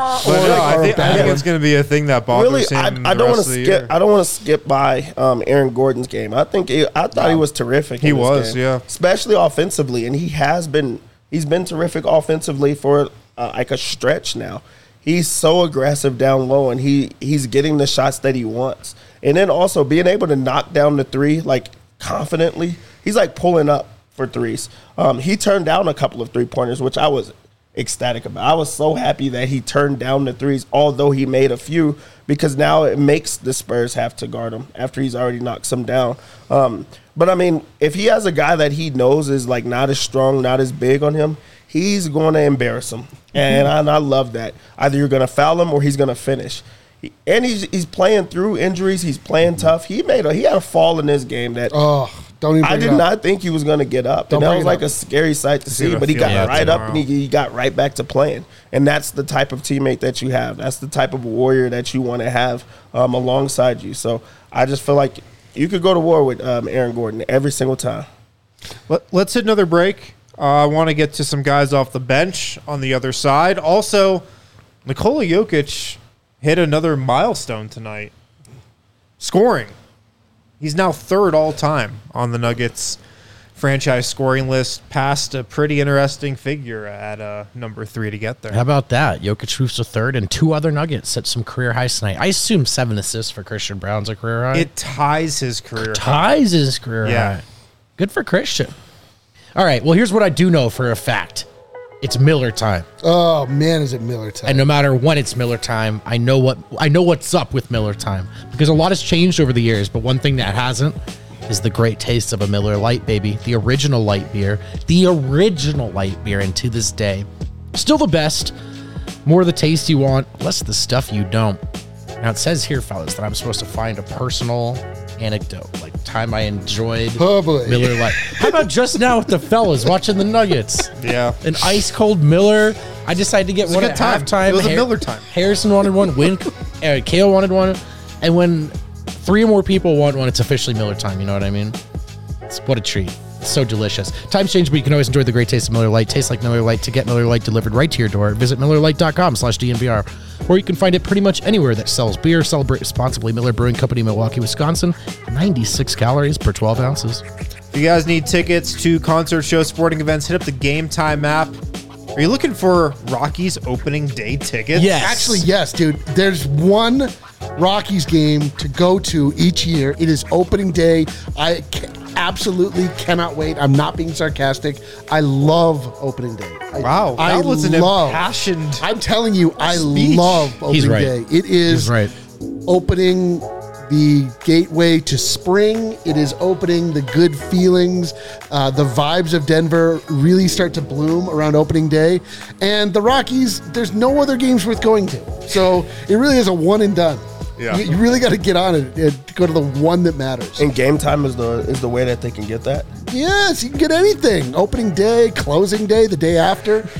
no, I or a think, I bad think one. it's going to be a thing that bothers Really, I, him. I the don't want rest to of the skip. year. I don't want to skip by um, Aaron Gordon's game. I think it, I thought he was terrific. He in this was, game, yeah. especially offensively, and he has been. He's been terrific offensively for uh, like a stretch now. He's so aggressive down low, and he he's getting the shots that he wants, and then also being able to knock down the three like confidently. He's like pulling up for threes. Um, he turned down a couple of three pointers, which I was ecstatic about. I was so happy that he turned down the threes, although he made a few, because now it makes the Spurs have to guard him after he's already knocked some down. Um, but I mean, if he has a guy that he knows is like not as strong, not as big on him, he's going to embarrass him. And I, and I love that. Either you're going to foul him or he's going to finish. He, and he's he's playing through injuries. He's playing tough. He made a he had a fall in this game that Oh, don't even. I bring did it up. not think he was going to get up. Don't And that bring was it like up. a scary sight to see, gonna but he feel got that right up and he, tomorrow. he got right back to playing. And that's the type of teammate that you have. That's the type of warrior that you want to have um, alongside you. So I just feel like you could go to war with um, Aaron Gordon every single time. Let, let's hit another break. Uh, I want to get to some guys off the bench on the other side. Also, Nikola Jokic hit another milestone tonight. Scoring. He's now third all time on the Nuggets franchise scoring list, past a pretty interesting figure at uh, number three to get there. How about that? Jokic moves to third, and two other Nuggets set some career highs tonight. I assume seven assists for Christian Brown's a career high. It ties his career high. ties his career Yeah. high. Good for Christian. All right, well, here's what I do know for a fact. It's Miller time. Oh man, is it Miller time? And no matter when it's Miller time, I know what I know what's up with Miller time, because a lot has changed over the years, but one thing that hasn't is the great taste of a Miller Lite, baby. The original light beer, the original light beer, and to this day, still the best. More of the taste you want, less of the stuff you don't. Now it says here, fellas, that I'm supposed to find a personal anecdote, like time I enjoyed Oh, boy. Miller Lite. How about just now with the fellas watching the Nuggets? Yeah. An ice cold Miller. I decided to get a one good at time. halftime. It was a Har- Miller time. Harrison wanted one. Win. uh, Kale wanted one. And when three or more people want one, it's officially Miller time. You know what I mean? It's, what a treat. It's so delicious. Times change, but you can always enjoy the great taste of Miller Lite. Tastes like Miller Lite. To get Miller Lite delivered right to your door, visit Miller Lite dot com slash D N V R. Or you can find it pretty much anywhere that sells beer. Celebrate responsibly. Miller Brewing Company, Milwaukee, Wisconsin. ninety-six calories per twelve ounces. If you guys need tickets to concert shows, sporting events, hit up the Game Time app. Are you looking for Rockies opening day tickets? Yes. Actually, yes, dude. There's one Rockies game to go to each year. It is opening day. I ca- absolutely cannot wait. I'm not being sarcastic. I love opening day. I, Wow, that I was an love, impassioned I'm telling you, I speech. love opening He's right. day. It is He's right. opening the gateway to spring. It is opening the good feelings. Uh, the vibes of Denver really start to bloom around opening day. And the Rockies, there's no other games worth going to. So it really is a one and done. Yeah. You, you really got to get on it and go to the one that matters. And game time is the is the way that they can get that. Yes, you can get anything. Opening day, closing day, the day after.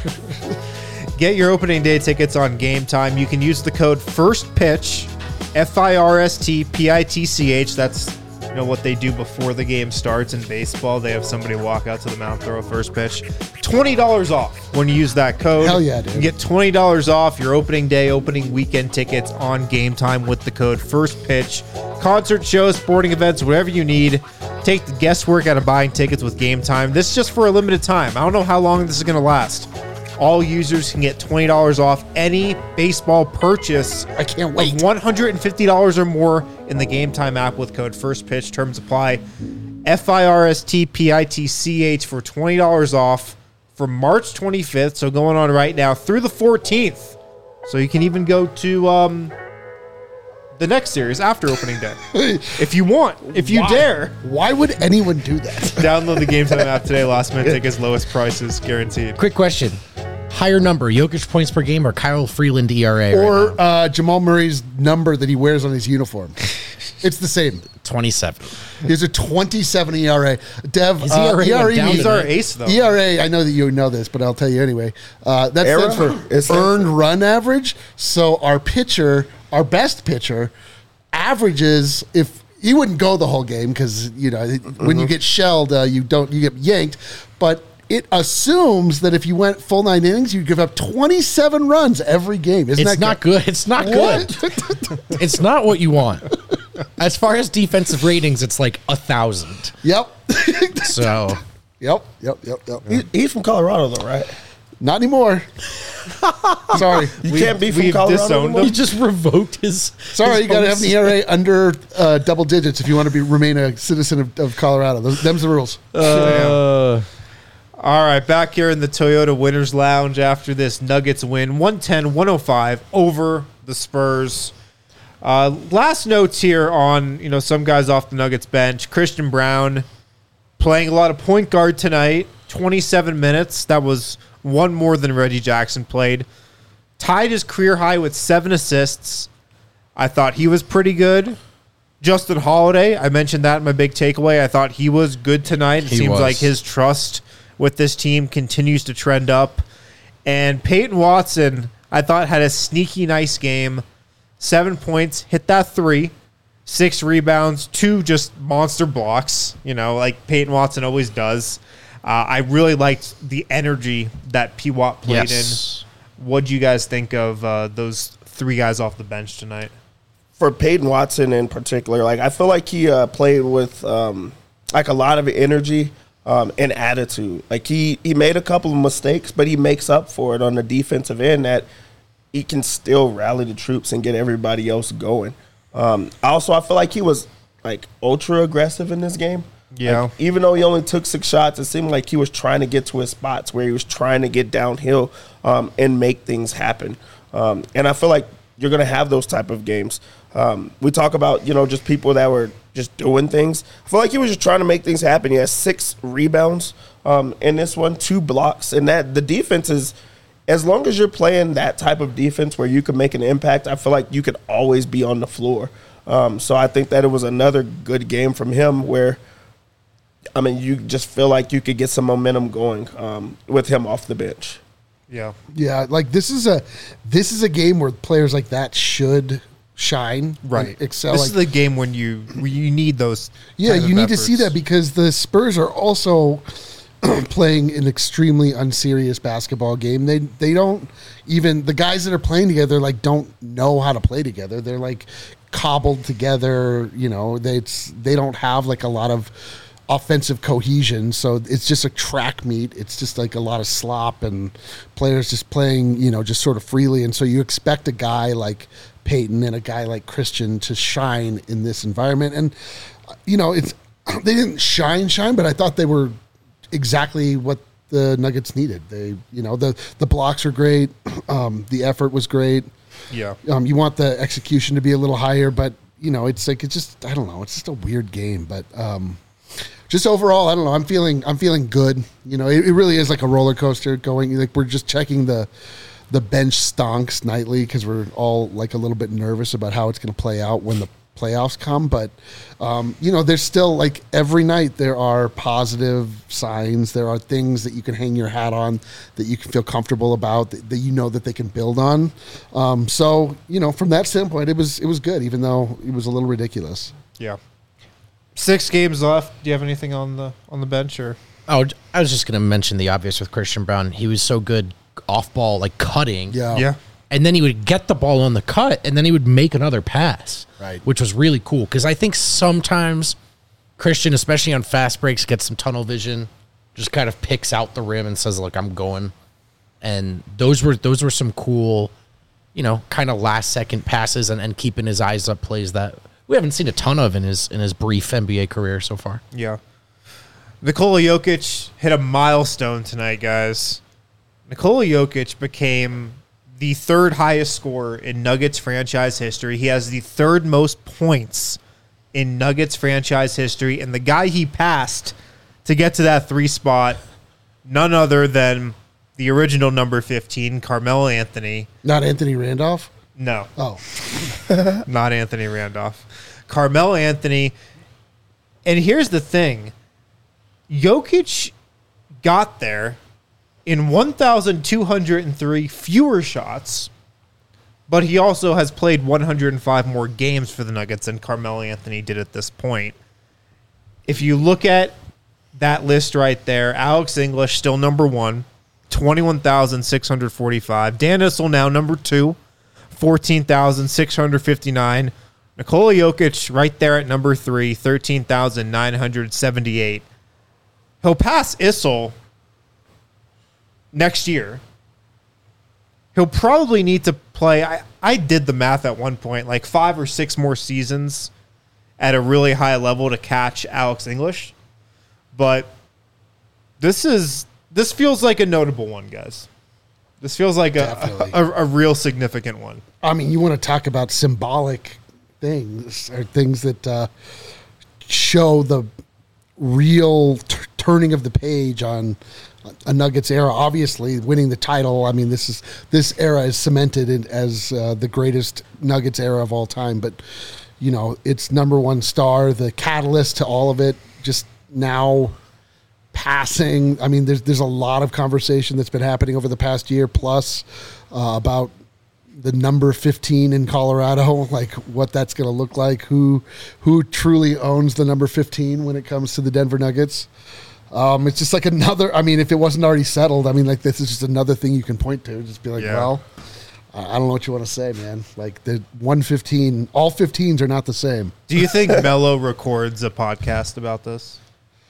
Get your opening day tickets on Game Time. You can use the code FIRSTPITCH, F I R S T P I T C H. That's you know what they do before the game starts in baseball. They have somebody walk out to the mound, throw a first pitch. twenty dollars off when you use that code. Hell yeah, dude. You get twenty dollars off your opening day, opening weekend tickets on Game Time with the code FIRSTPITCH. Concert shows, sporting events, whatever you need. Take the guesswork out of buying tickets with Game Time. This is just for a limited time. I don't know how long this is going to last. All users can get twenty dollars off any baseball purchase I can't wait. of one hundred fifty dollars or more in the Game Time app with code FIRSTPITCH. Terms apply. F I R S T P I T C H for twenty dollars off for March twenty-fifth. So going on right now through the fourteenth. So you can even go to um, the next series after opening day. If you want. If you Why? dare. Why would anyone do that? Download the Game Time app today. Last minute tickets, lowest prices guaranteed. Quick question. Higher number, Jokic points per game or Kyle Freeland E R A? Or right now? uh, Jamal Murray's number that he wears on his uniform. It's the same. twenty-seven. He has a twenty-seven E R A. Dev, His uh, E R A went E R A down means- He's our ace, though. E R A, I know that you know this, but I'll tell you anyway. Uh, that Era? stands It for stands earned for- run average. So our pitcher, our best pitcher, averages, if he wouldn't go the whole game because, you know, when you get shelled, uh, you don't, you get yanked. But it assumes that if you went full nine innings, you'd give up twenty-seven runs every game. Isn't It's that not good. It's not good. What? It's not what you want. As far as defensive ratings, it's like a thousand. Yep. So Yep. Yep. Yep. Yep. He, he's from Colorado, though, right? Not anymore. Sorry. You We- can't be from we've Colorado disowned anymore? he just revoked his. Sorry, his you got to have home an E R A under uh, double digits if you want to be remain a citizen of, of Colorado. Those, them's the rules. Uh, All right, back here in the Toyota Winners Lounge after this Nuggets win, one ten one oh five over the Spurs. Uh, last notes here on, you know, some guys off the Nuggets bench. Christian Brown playing a lot of point guard tonight, twenty-seven minutes. That was one more than Reggie Jackson played. Tied his career high with seven assists. I thought he was pretty good. Justin Holiday, I mentioned that in my big takeaway. I thought he was good tonight. It He seems was. like his trust with this team continues to trend up. And Peyton Watson, I thought, had a sneaky nice game. Seven points, hit that three, six rebounds, two just monster blocks, you know, like Peyton Watson always does. Uh, I really liked the energy that P. Watt played yes. in. What do you guys think of uh, those three guys off the bench tonight? For Peyton Watson in particular, like I feel like he uh, played with um, like a lot of energy um, and attitude. Like he he made a couple of mistakes, but he makes up for it on the defensive end. That he can still rally the troops and get everybody else going. Um, also, I feel like he was like ultra aggressive in this game. Yeah. Like, even though he only took six shots, it seemed like he was trying to get to his spots where he was trying to get downhill um, and make things happen. Um, and I feel like you're going to have those type of games. Um, we talk about, you know, just people that were just doing things. I feel like he was just trying to make things happen. He has six rebounds um, in this one, two blocks. And that the defense is, as long as you're playing that type of defense where you can make an impact, I feel like you could always be on the floor. Um, so I think that it was another good game from him where, I mean, you just feel like you could get some momentum going um, with him off the bench. Yeah. Yeah, like this is a this is a game where players like that should shine, Right. like, excel. This like, is the game when you when you need those. yeah, kind of you need to see efforts. that because the Spurs are also playing an extremely unserious basketball game. They they don't even the guys that are playing together like don't know how to play together. They're like cobbled together. You know, they it's, they don't have like a lot of offensive cohesion, so it's just a track meet. It's just like a lot of slop and players just playing, you know, just sort of freely. And so you expect a guy like Peyton and a guy like Christian to shine in this environment. And you know, it's they didn't shine, shine, but I thought they were exactly what the Nuggets needed. They, you know, the the blocks are great, um, the effort was great. Yeah. Um, you want the execution to be a little higher, but you know, it's like it's just I don't know, it's just a weird game, but. Um, Just overall, I don't know. I'm feeling, I'm feeling good. You know, it, it really is like a roller coaster going. Like we're just checking the, the bench stonks nightly because we're all like a little bit nervous about how it's going to play out when the playoffs come. But um, you know, there's still like every night there are positive signs. There are things that you can hang your hat on that you can feel comfortable about that, that you know that they can build on. Um, so you know, from that standpoint, it was it was good, even though it was a little ridiculous. Yeah. Six games left. Do you have anything on the on the bench or? Oh, I was just going to mention the obvious with Christian Braun. He was so good off ball, like cutting. Yeah. Yeah. And then he would get the ball on the cut, and then he would make another pass. Right. Which was really cool, because I think sometimes Christian, especially on fast breaks, gets some tunnel vision, just kind of picks out the rim and says, look, I'm going. And those were those were some cool, you know, kind of last second passes and, and keeping his eyes up plays that we haven't seen a ton of in his in his brief N B A career so far. Yeah. Nikola Jokic hit a milestone tonight, guys. Nikola Jokic became the third highest scorer in Nuggets franchise history. He has the third most points in Nuggets franchise history. And the guy he passed to get to that three spot, none other than the original number fifteen, Carmelo Anthony. Not Anthony Randolph? No. Oh. Not Anthony Randolph. Carmelo Anthony. And here's the thing. Jokic got there in one thousand two hundred three fewer shots, but he also has played one hundred five more games for the Nuggets than Carmelo Anthony did at this point. If you look at that list right there, Alex English still number one, twenty-one thousand six hundred forty-five. Dan Issel now number two, fourteen thousand six hundred fifty-nine. Nikola Jokic right there at number three, thirteen thousand nine hundred seventy-eight. He'll pass Issel next year. He'll probably need to play, I, I did the math at one point, like five or six more seasons at a really high level to catch Alex English. But this is this feels like a notable one, guys. This feels like a, a, a real significant one. I mean, you want to talk about symbolic things or things that uh, show the real t- turning of the page on a Nuggets era. Obviously, winning the title. I mean, this is this era is cemented in, as uh, the greatest Nuggets era of all time. But you know, it's number one star, the catalyst to all of it. Just now passing. I mean, there's there's a lot of conversation that's been happening over the past year plus uh, about the number fifteen in Colorado, like what that's going to look like, who who truly owns the number fifteen when it comes to the Denver Nuggets. Um, it's just like another, I mean, if it wasn't already settled, I mean, like this is just another thing you can point to. Just be like, Yeah. well, I don't know what you want to say, man. Like the one fifteen, all fifteens are not the same. Do you think Melo records a podcast about this?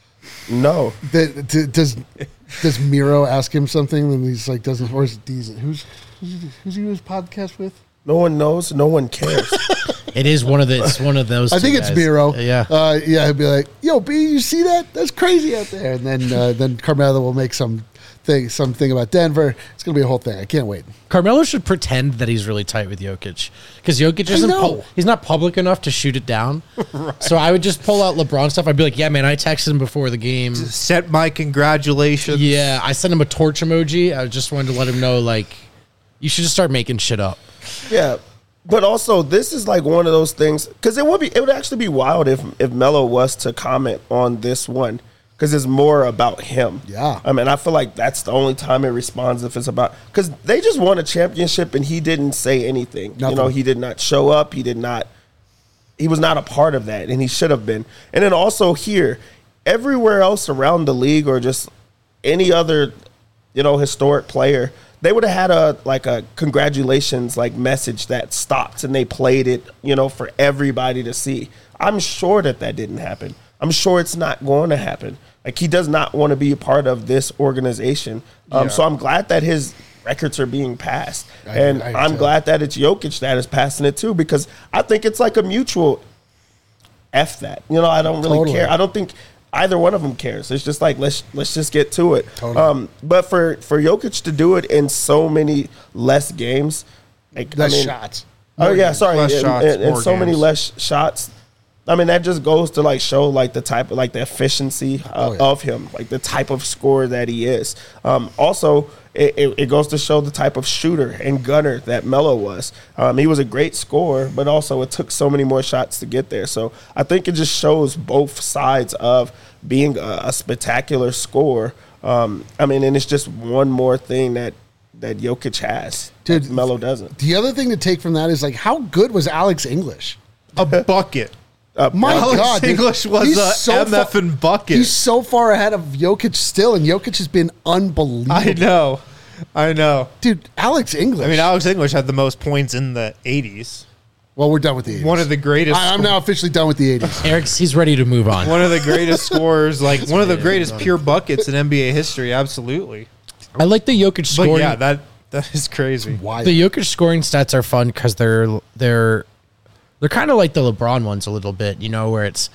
No. The, d- does does Miro ask him something and he's like, doesn't, or is it Deezen? Who's, who's, who's he do his podcast with? No one knows. No one cares. It is one of the. It's one of those. I two think it's guys. Miro. Yeah. uh, yeah. He'd be like, "Yo, B, you see that? That's crazy out there." And then, uh, then Carmelo will make some thing, something about Denver. It's gonna be a whole thing. I can't wait. Carmelo should pretend that he's really tight with Jokic, because Jokic isn't. know. Pu- he's not public enough to shoot it down. Right. So I would just pull out LeBron stuff. I'd be like, "Yeah, man, I texted him before the game. Sent my congratulations. Yeah, I sent him a torch emoji. I just wanted to let him know, like, you should just start making shit up." Yeah. But also, this is like one of those things, because it would be, it would actually be wild if if Melo was to comment on this one, because it's more about him. Yeah. I mean, I feel like that's the only time it responds if it's about, because they just won a championship and he didn't say anything. Nothing. You know, he did not show up. He did not. He was not a part of that, and he should have been. And then also here, everywhere else around the league, or just any other, you know, historic player, they would have had a like a congratulations like message that stopped, and they played it, you know, for everybody to see. I'm sure that that didn't happen. I'm sure it's not going to happen. Like, he does not want to be a part of this organization. Um, Yeah. So I'm glad that his records are being passed, I- and I I'm too. glad that it's Jokic that is passing it too, because I think it's like a mutual F that. You know, I don't really Totally. care. I don't think either one of them cares. It's just like, let's let's just get to it. Totally. Um, but for for Jokic to do it in so many less games, like Less I mean, shots. Oh yeah, sorry, Less and, shots, and- and more so many games. less shots. I mean, that just goes to like show like the type of like the efficiency uh, Oh, yeah. of him, like the type of scorer that he is. Um, also, it, it, it goes to show the type of shooter and gunner that Melo was. Um, he was a great scorer, but also it took so many more shots to get there. So I think it just shows both sides of being a, a spectacular scorer. Um, I mean, and it's just one more thing that that Jokic has. Dude, that Melo doesn't. The other thing to take from that is like, how good was Alex English? A bucket. Uh, My Alex God, dude. English was He's a so M F and bucket. He's so far ahead of Jokic still, and Jokic has been unbelievable. I know. I know. Dude, Alex English. I mean, Alex English had the most points in the eighties. well, we're done with the eighties. One of the greatest. I, I'm now officially done with the eighties. Eric's he's ready to move on. One of the greatest scorers, like one of the greatest pure buckets in N B A history. Absolutely. I like the Jokic But scoring. yeah, that that is crazy. Why? The Jokic scoring stats are fun because they're they're they're kind of like the LeBron ones a little bit, you know, where it's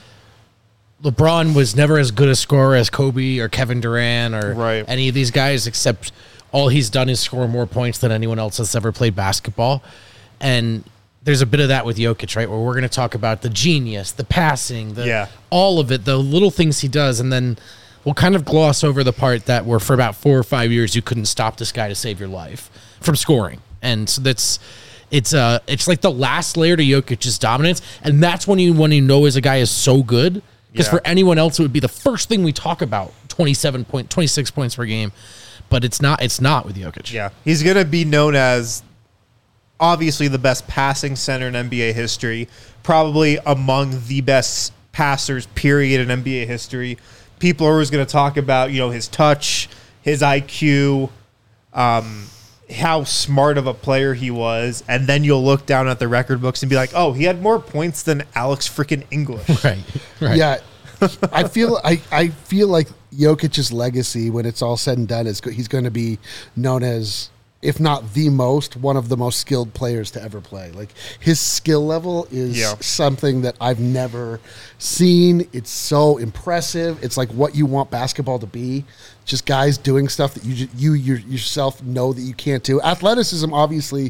LeBron was never as good a scorer as Kobe or Kevin Durant or Right. any of these guys, except all he's done is score more points than anyone else that's ever played basketball. And there's a bit of that with Jokic, right? Where we're going to talk about the genius, the passing, the Yeah. all of it, the little things he does, and then we'll kind of gloss over the part that where for about four or five years you couldn't stop this guy to save your life from scoring. And so that's it's uh it's like the last layer to Jokic's dominance, and that's when you when you know as a guy is so good. Because Yeah. for anyone else, it would be the first thing we talk about: twenty-seven point, twenty-six points per game. But it's not. It's not with Jokic. Yeah, he's gonna be known as obviously the best passing center in N B A history, probably among the best passers, period, in N B A history. People are always going to talk about, you know, his touch, his I Q, um, how smart of a player he was, and then you'll look down at the record books and be like, oh, he had more points than Alex freaking English. Right. Right. Yeah, I feel I, I feel like Jokic's legacy, when it's all said and done, is go- he's going to be known as, if not the most, one of the most skilled players to ever play. Like, his skill level is Yeah. something that I've never seen. It's so impressive. It's like what you want basketball to be. Just guys doing stuff that you ju- you your, yourself know that you can't do. Athleticism, obviously,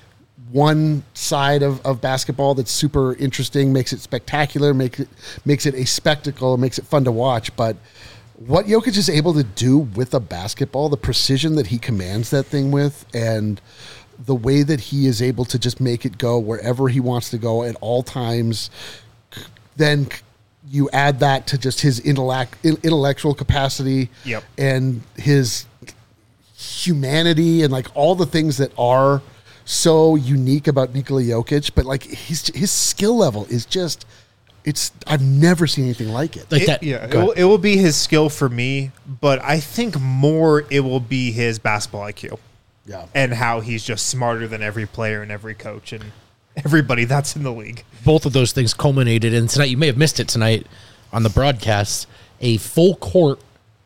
one side of, of basketball that's super interesting, makes it spectacular, makes it makes it a spectacle, makes it fun to watch. But what Jokic is able to do with a basketball, the precision that he commands that thing with, and the way that he is able to just make it go wherever he wants to go at all times, then you add that to just his intellect, intellectual capacity Yep. and his humanity and like all the things that are so unique about Nikola Jokic, but like his his skill level is just, it's I've never seen anything like it. Like It- that. yeah, it go will, ahead. it will be his skill for me, but I think more it will be his basketball I Q Yeah. and how he's just smarter than every player and every coach and everybody that's in the league. Both of those things culminated in tonight. You may have missed it tonight on the broadcast. A full court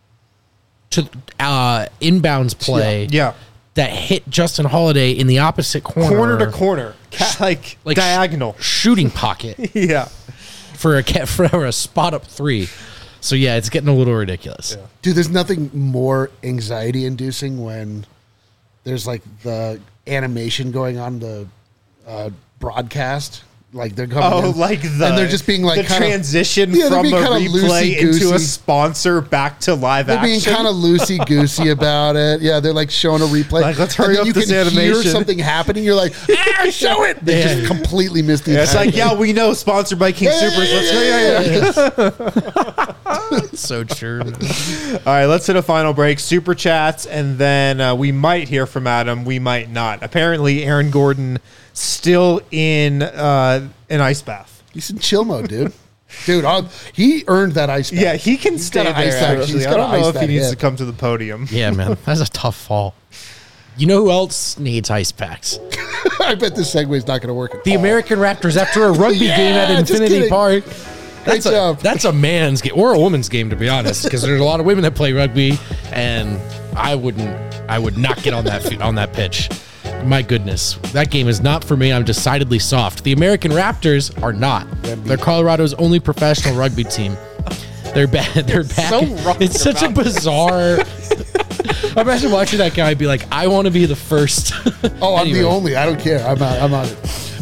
to uh, inbounds play. Yeah. That hit Justin Holiday in the opposite corner, Corner to corner, Ca- like, like diagonal. shooting pocket Yeah. for a ca- for a spot up three. So yeah, it's getting a little ridiculous. Dude, there's nothing more anxiety inducing when there's like the animation going on the uh, broadcast. Like they're coming Oh, in, like the and they're just being like the kinda- transition Yeah, they're from being a kinda replay into a loosey-goosey. sponsor back to live They're action. being kind of loosey goosey about it. Yeah, they're like showing a replay. Like, let's And hurry then up you this can hear animation. something happening. You're like, ah, show it. They Yeah. just completely missed the. Yeah, it's entire like, thing. yeah, we know, sponsored by King Yeah, Supers. yeah, Let's yeah, go. Yeah, yeah. So true. All right, let's hit a final break. Super chats, and then uh, we might hear from Adam. We might not. Apparently, Aaron Gordon still in uh, an ice bath. He's in chill mode, dude. Dude, I'll, he earned that ice bath. Yeah, he can stay gotta there. ice that- Actually, he's I gotta don't know ice if he that needs hip. to come to the podium. Yeah, man, that's a tough fall. You know who else needs ice packs? I bet this segue is not going to work. At The all. American Raptors after a rugby Yeah, game at just Infinity kidding. Park. Great That's a, job. that's a man's game or a woman's game, to be honest, because there's a lot of women that play rugby, and I wouldn't, I would not get on that fi- on that pitch. My goodness, that game is not for me. I'm decidedly soft. The American Raptors are not. They're Colorado's only professional rugby team. They're bad. They're back. so wrong It's such a bizarre. Imagine watching that guy be like, "I want to be the first." Oh, I'm Anyway. the only. I don't care. I'm out. I'm on it.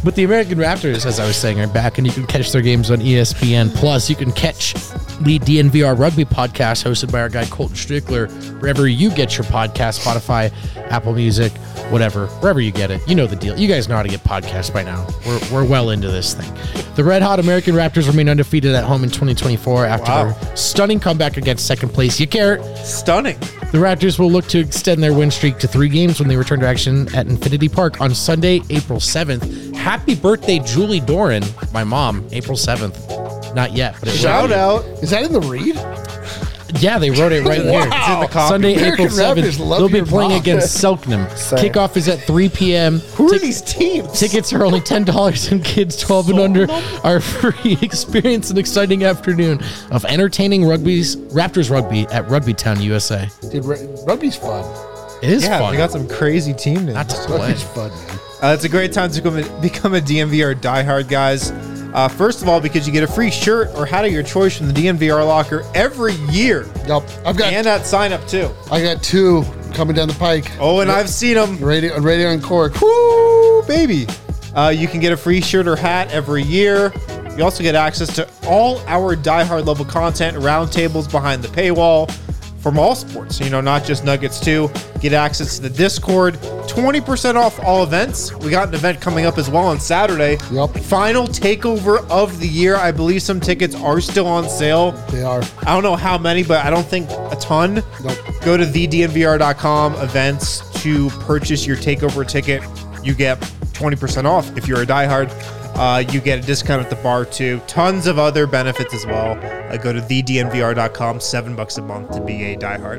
But the American Raptors, as I was saying, are back, and you can catch their games on E S P N. Plus, you can catch the D N V R Rugby podcast hosted by our guy Colton Strickler wherever you get your podcast, Spotify, Apple Music, whatever, wherever you get it. You know the deal. You guys know how to get podcasts by now. We're, we're well into this thing. The Red Hot American Raptors remain undefeated at home in twenty twenty-four after Wow. their stunning comeback against second place. You care? Stunning. The Raptors will look to extend their win streak to three games when they return to action at Infinity Park on Sunday, April seventh. Happy birthday, Julie Doran, my mom, April seventh. Not yet, but it will Shout be. out. Is that in the read? Yeah, they wrote it right here. It's in the copy. Sunday, American April seventh. Raptors love They'll be your playing mom. against Selknam. Same. Kickoff is at three p.m. Who are Tic- these teams? Tickets are only ten dollars, and kids twelve and under are free. Experience an exciting afternoon of entertaining rugby's Raptors rugby at Rugbytown, U S A. Dude, r- rugby's fun. It is Yeah, fun. they got some crazy team names. Not to play. Rugby's fun, man. Uh, it's a great time to become a, become a D N V R diehard, guys. Uh, first of all, because you get a free shirt or hat of your choice from the D N V R locker every year, Yep. I've got and at sign up too. I got two coming down the pike. Oh, and I've seen them. Radio, radio on Cork. Woo, baby. Uh, you can get a free shirt or hat every year. You also get access to all our diehard level content, roundtables behind the paywall from all sports. You know, not just Nuggets too. Get access to the Discord. twenty percent off all events. We got an event coming up as well on Saturday. Yep. Final takeover of the year. I believe some tickets are still on sale. They are. I don't know how many, but I don't think a ton. Nope. Go to the D N V R dot com events to purchase your takeover ticket. You get twenty percent off if you're a diehard. Uh, you get a discount at the bar too. Tons of other benefits as well. Uh, go to the D N V R dot com, seven bucks a month to be a diehard.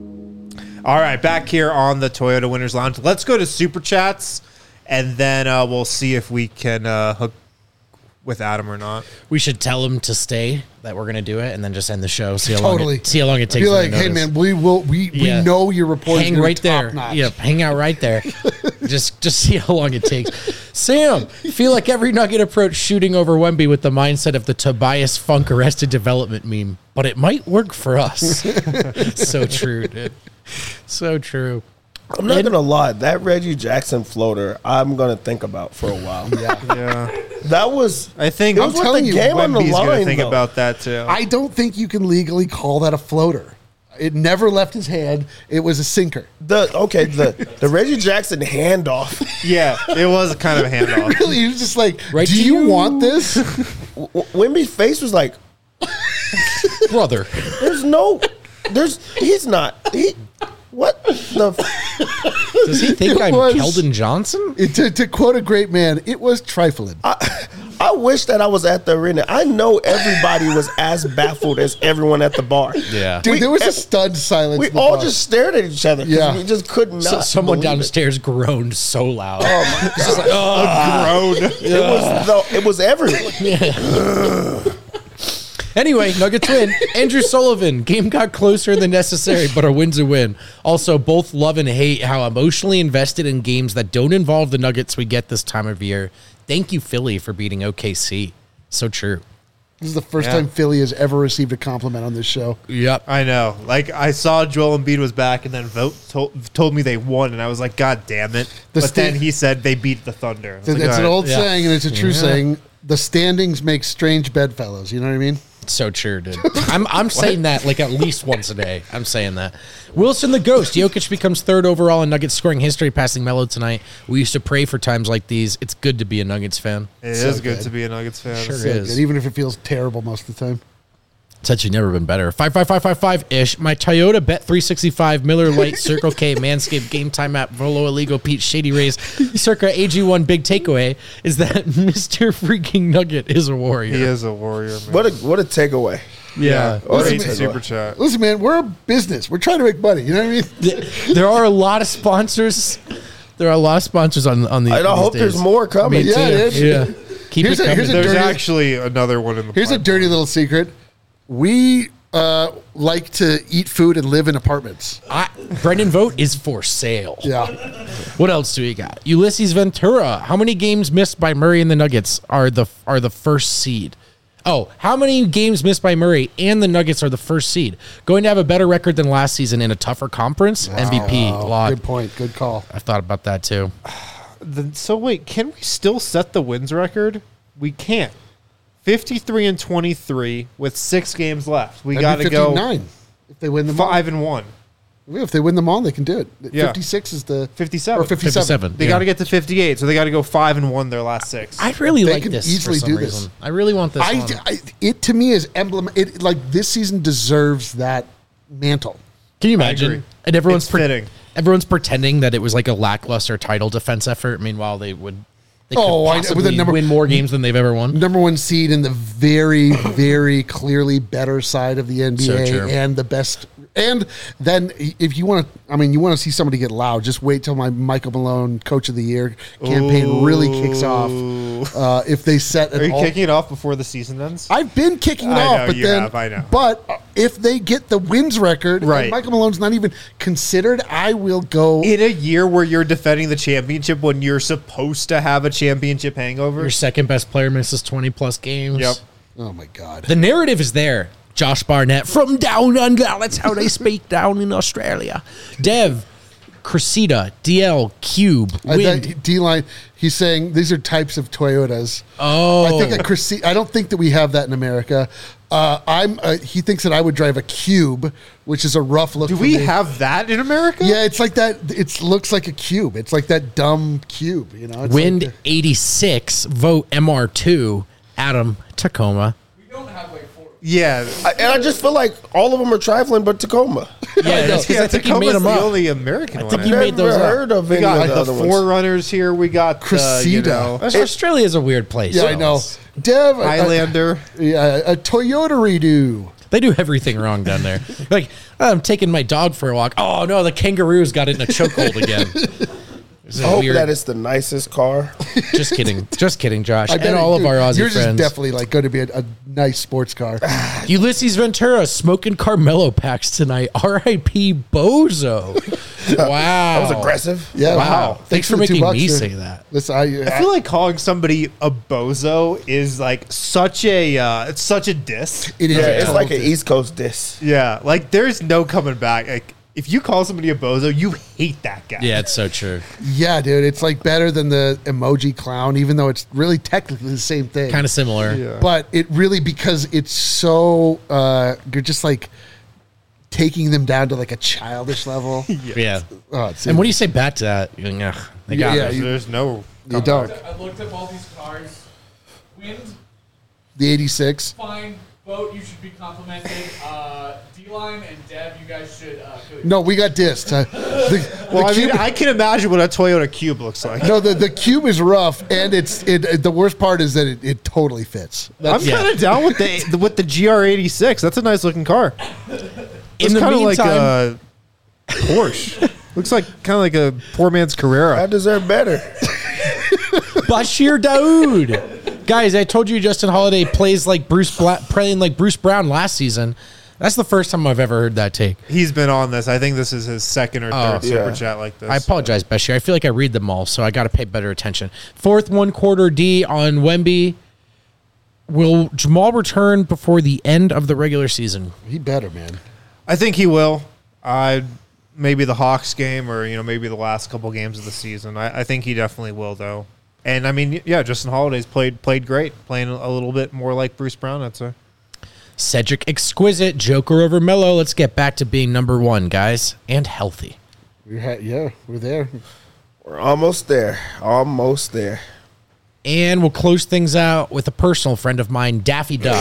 All right, back here on the Toyota Winners Lounge. Let's go to Super Chats, and then uh, we'll see if we can uh, hook with Adam or not. We should tell him to stay, that we're going to do it, and then just end the show. See how Totally. long it, see how long it takes. Be them to like, hey notice. man, we will. We, Yeah. we know your report. Hang right there. Yeah, hang out right there. just just see how long it takes. Sam, feel like every Nugget approach shooting over Wemby with the mindset of the Tobias Funk Arrested Development meme, but it might work for us. So true, dude. So true. I'm not gonna lie, that Reggie Jackson floater, I'm gonna think about for a while. Yeah. Yeah, That was, I think it was with telling the you, game on the Wemby's going to line. think though. about that too. I don't think you can legally call that a floater. It never left his hand. It was a sinker. The okay, the the Reggie Jackson handoff. Yeah, it was kind of a handoff. Really, he was just like, Right "Do to you, you." want this?" W- Wemby's face was like, Brother. "There's no, there's he's not he." What the? F- Does he think It I'm was- Keldon Johnson? It- to, to quote a great man, it was trifling. I wish that I was at the arena. I know everybody was as baffled as everyone at the bar. Yeah. Dude, we- there was a stunned silence. We in the all bar. just stared at each other. 'cause Yeah. we just could not. So, someone believe it. downstairs groaned so loud. Oh my god! Grown. It was the, it was everyone. Anyway, Nuggets win. Andrew Sullivan, game got closer than necessary, but a win's a win. Also, both love and hate how emotionally invested in games that don't involve the Nuggets we get this time of year. Thank you, Philly, for beating O K C. So true. This is the first Yeah. time Philly has ever received a compliment on this show. Yep. I know. Like, I saw Joel Embiid was back, and then Vote told, told me they won, and I was like, God damn it. The but then sta- he said they beat the Thunder. I was It's like, an all right. old Yeah. saying, and it's a true saying. The standings make strange bedfellows. You know what I mean? So true, dude. I'm I'm saying that like at least once a day. I'm saying that. Wilson the Ghost. Jokic becomes third overall in Nuggets scoring history, passing Melo tonight. We used to pray for times like these. It's good to be a Nuggets fan. It So is good, good. to be a Nuggets fan. Sure So is. good, even if it feels terrible most of the time. It's actually never been better. Five five five five five ish. My Toyota Bet three sixty five, Miller Lite, Circle K, Manscaped, Game Time app, Volo Illegal, Pete, Shady Rays, Circa A G one. Big takeaway is that Mister Freaking Nugget is a warrior. He is a warrior, man. What a what a takeaway. Yeah. Great Listen, super chat. Listen, man, we're a business. We're trying to make money. You know what I mean? Th- There are a lot of sponsors. There are a lot of sponsors on on the. I these hope days. there's more coming. Me Yeah, too. dude. Yeah. Keep Here's it a- coming. here's a There's dirty- actually another one in the Here's a pipeline. dirty little secret. We uh, like to eat food and live in apartments. I, Brendan Vogt is for sale. Yeah. What else do we got? Ulysses Ventura. How many games missed by Murray and the Nuggets are the are the first seed? Oh, how many games missed by Murray and the Nuggets are the first seed? Going to have a better record than last season in a tougher conference? M V P. Oh, Lot. good point. Good call. I've thought about that too. the, so wait, can we still set the wins record? We can't. fifty-three and twenty-three with six games left. We got to go fifty-nine if they win them all. five and one. If they win them all, they can do it. Yeah. fifty-six is the fifty-seven. or fifty-seven. fifty-seven. They Yeah. got to get to fifty-eight, so they got to go five and one their last six. I really They like can this easily for some do this. reason. I really want this I, one. I- it to me is emblem. It like this season deserves that mantle. Can you agree. imagine? And everyone's It's fitting. everyone's pretending that it was like a lackluster title defense effort. Meanwhile, they would they could Oh, I know, with the possibly number- win more games than they've ever won. Number one seed in the very, very clearly better side of the N B A So true. and the best. And then if you want to, I mean, you want to see somebody get loud, just wait till my Michael Malone Coach of the Year campaign really kicks off. Uh, if they set an Are you all- kicking it off before the season ends? I've been kicking it I off, know, but you then, have, I know. but if they get the wins record, and Right. Michael Malone's not even considered, I will go. In a year where you're defending the championship when you're supposed to have a championship hangover? Your second best player misses twenty plus games. Yep. Oh my God! The narrative is there. Josh Barnett from down under. That's how they speak down in Australia. Dev, Cressida, D L, Cube, I Wind. thought D line. He's saying these are types of Toyotas. Oh. I think a Cressida. I don't think that we have that in America. Uh, I'm. Uh, he thinks that I would drive a Cube, which is a rough look. Do for we me. have that in America? Yeah, it's like that. It looks like a cube. It's like that dumb cube. You know. It's Wind like the- eighty-six, vote M R two, Adam, Tacoma. We don't have like four. Yeah. I, and I just feel like all of them are trifling, but Tacoma. Yeah, that's because yeah I think he Tacoma's made them the up. only American I one. think he I made Never those up. heard of We any got of the the other ones. Forerunners here. We got uh, you Cressida. know, Australia's a weird place. yeah, I know. Dev, a- Highlander. A, yeah, a Toyota redo. They do everything wrong down there. Like, I'm taking my dog for a walk. Oh, no, the kangaroos got it in a chokehold again. This is I hope weird. that it's the nicest car. Just kidding. Just kidding, Josh. I And bet all it- of our Aussie yours friends. is definitely like going to be a, a nice sports car. Ulysses Ventura smoking Carmelo packs tonight. R I P Bozo. Wow. That was aggressive. Yeah, Wow. Thanks for the two making bucks, me sir. say that. Listen, I, I feel like calling somebody a bozo is like such a uh, it's such a diss. it is. Yeah, a it's total like an diss. East Coast diss. Yeah, like there's no coming back. Like if you call somebody a bozo, you hate that guy. Yeah, it's so true. Yeah, dude, it's like better than the emoji clown, even though it's really technically the same thing. Kind of similar. Yeah. But it really, because it's so uh, you're just like taking them down to like a childish level. Yeah. Oh, it's And what do you say back to that? You're like, "Ugh, they got Yeah, me." There's, you- there's no. you don't. I looked up all these cars. Wind, The eighty-six. fine. Boat, you should be complimented. Uh, D-Line and Dev, you guys should. Uh, go- No, we got dissed. Uh, the, Well, the I mean, cube, I can imagine what a Toyota Cube looks like. no, the, the cube is rough, and it's it, it- the worst part is that it, it totally fits. I'm That's, Yeah. kind of down with the, the with the G R eighty-six. That's a nice looking car. It's the kind of like meantime- a Porsche. Looks like kind of like a poor man's I Carrera. deserve better. Bashir Daoud. Guys, I told you Justin Holiday plays like Bruce Bla- playing like Bruce Brown last season. That's the first time I've ever heard that take. He's been on this. I think this is his second or third Oh. super Yeah. chat like this. I apologize, Bashir. I feel like I read them all, so I got to pay better attention. Fourth one quarter D on Wemby. Will Jamal return before the end of the regular season? he better, man. I think he will. I maybe the Hawks game or you know maybe the last couple games of the season. I, I think he definitely will though. And I mean, yeah, Justin Holiday's played played great, playing a little bit more like Bruce Brown. I'd say. Cedric Exquisite, Joker over Melo. Let's get back to being number one, guys, and healthy. We're ha- yeah, we're there. We're almost there. Almost there. And we'll close things out with a personal friend of mine, Daffy Duck.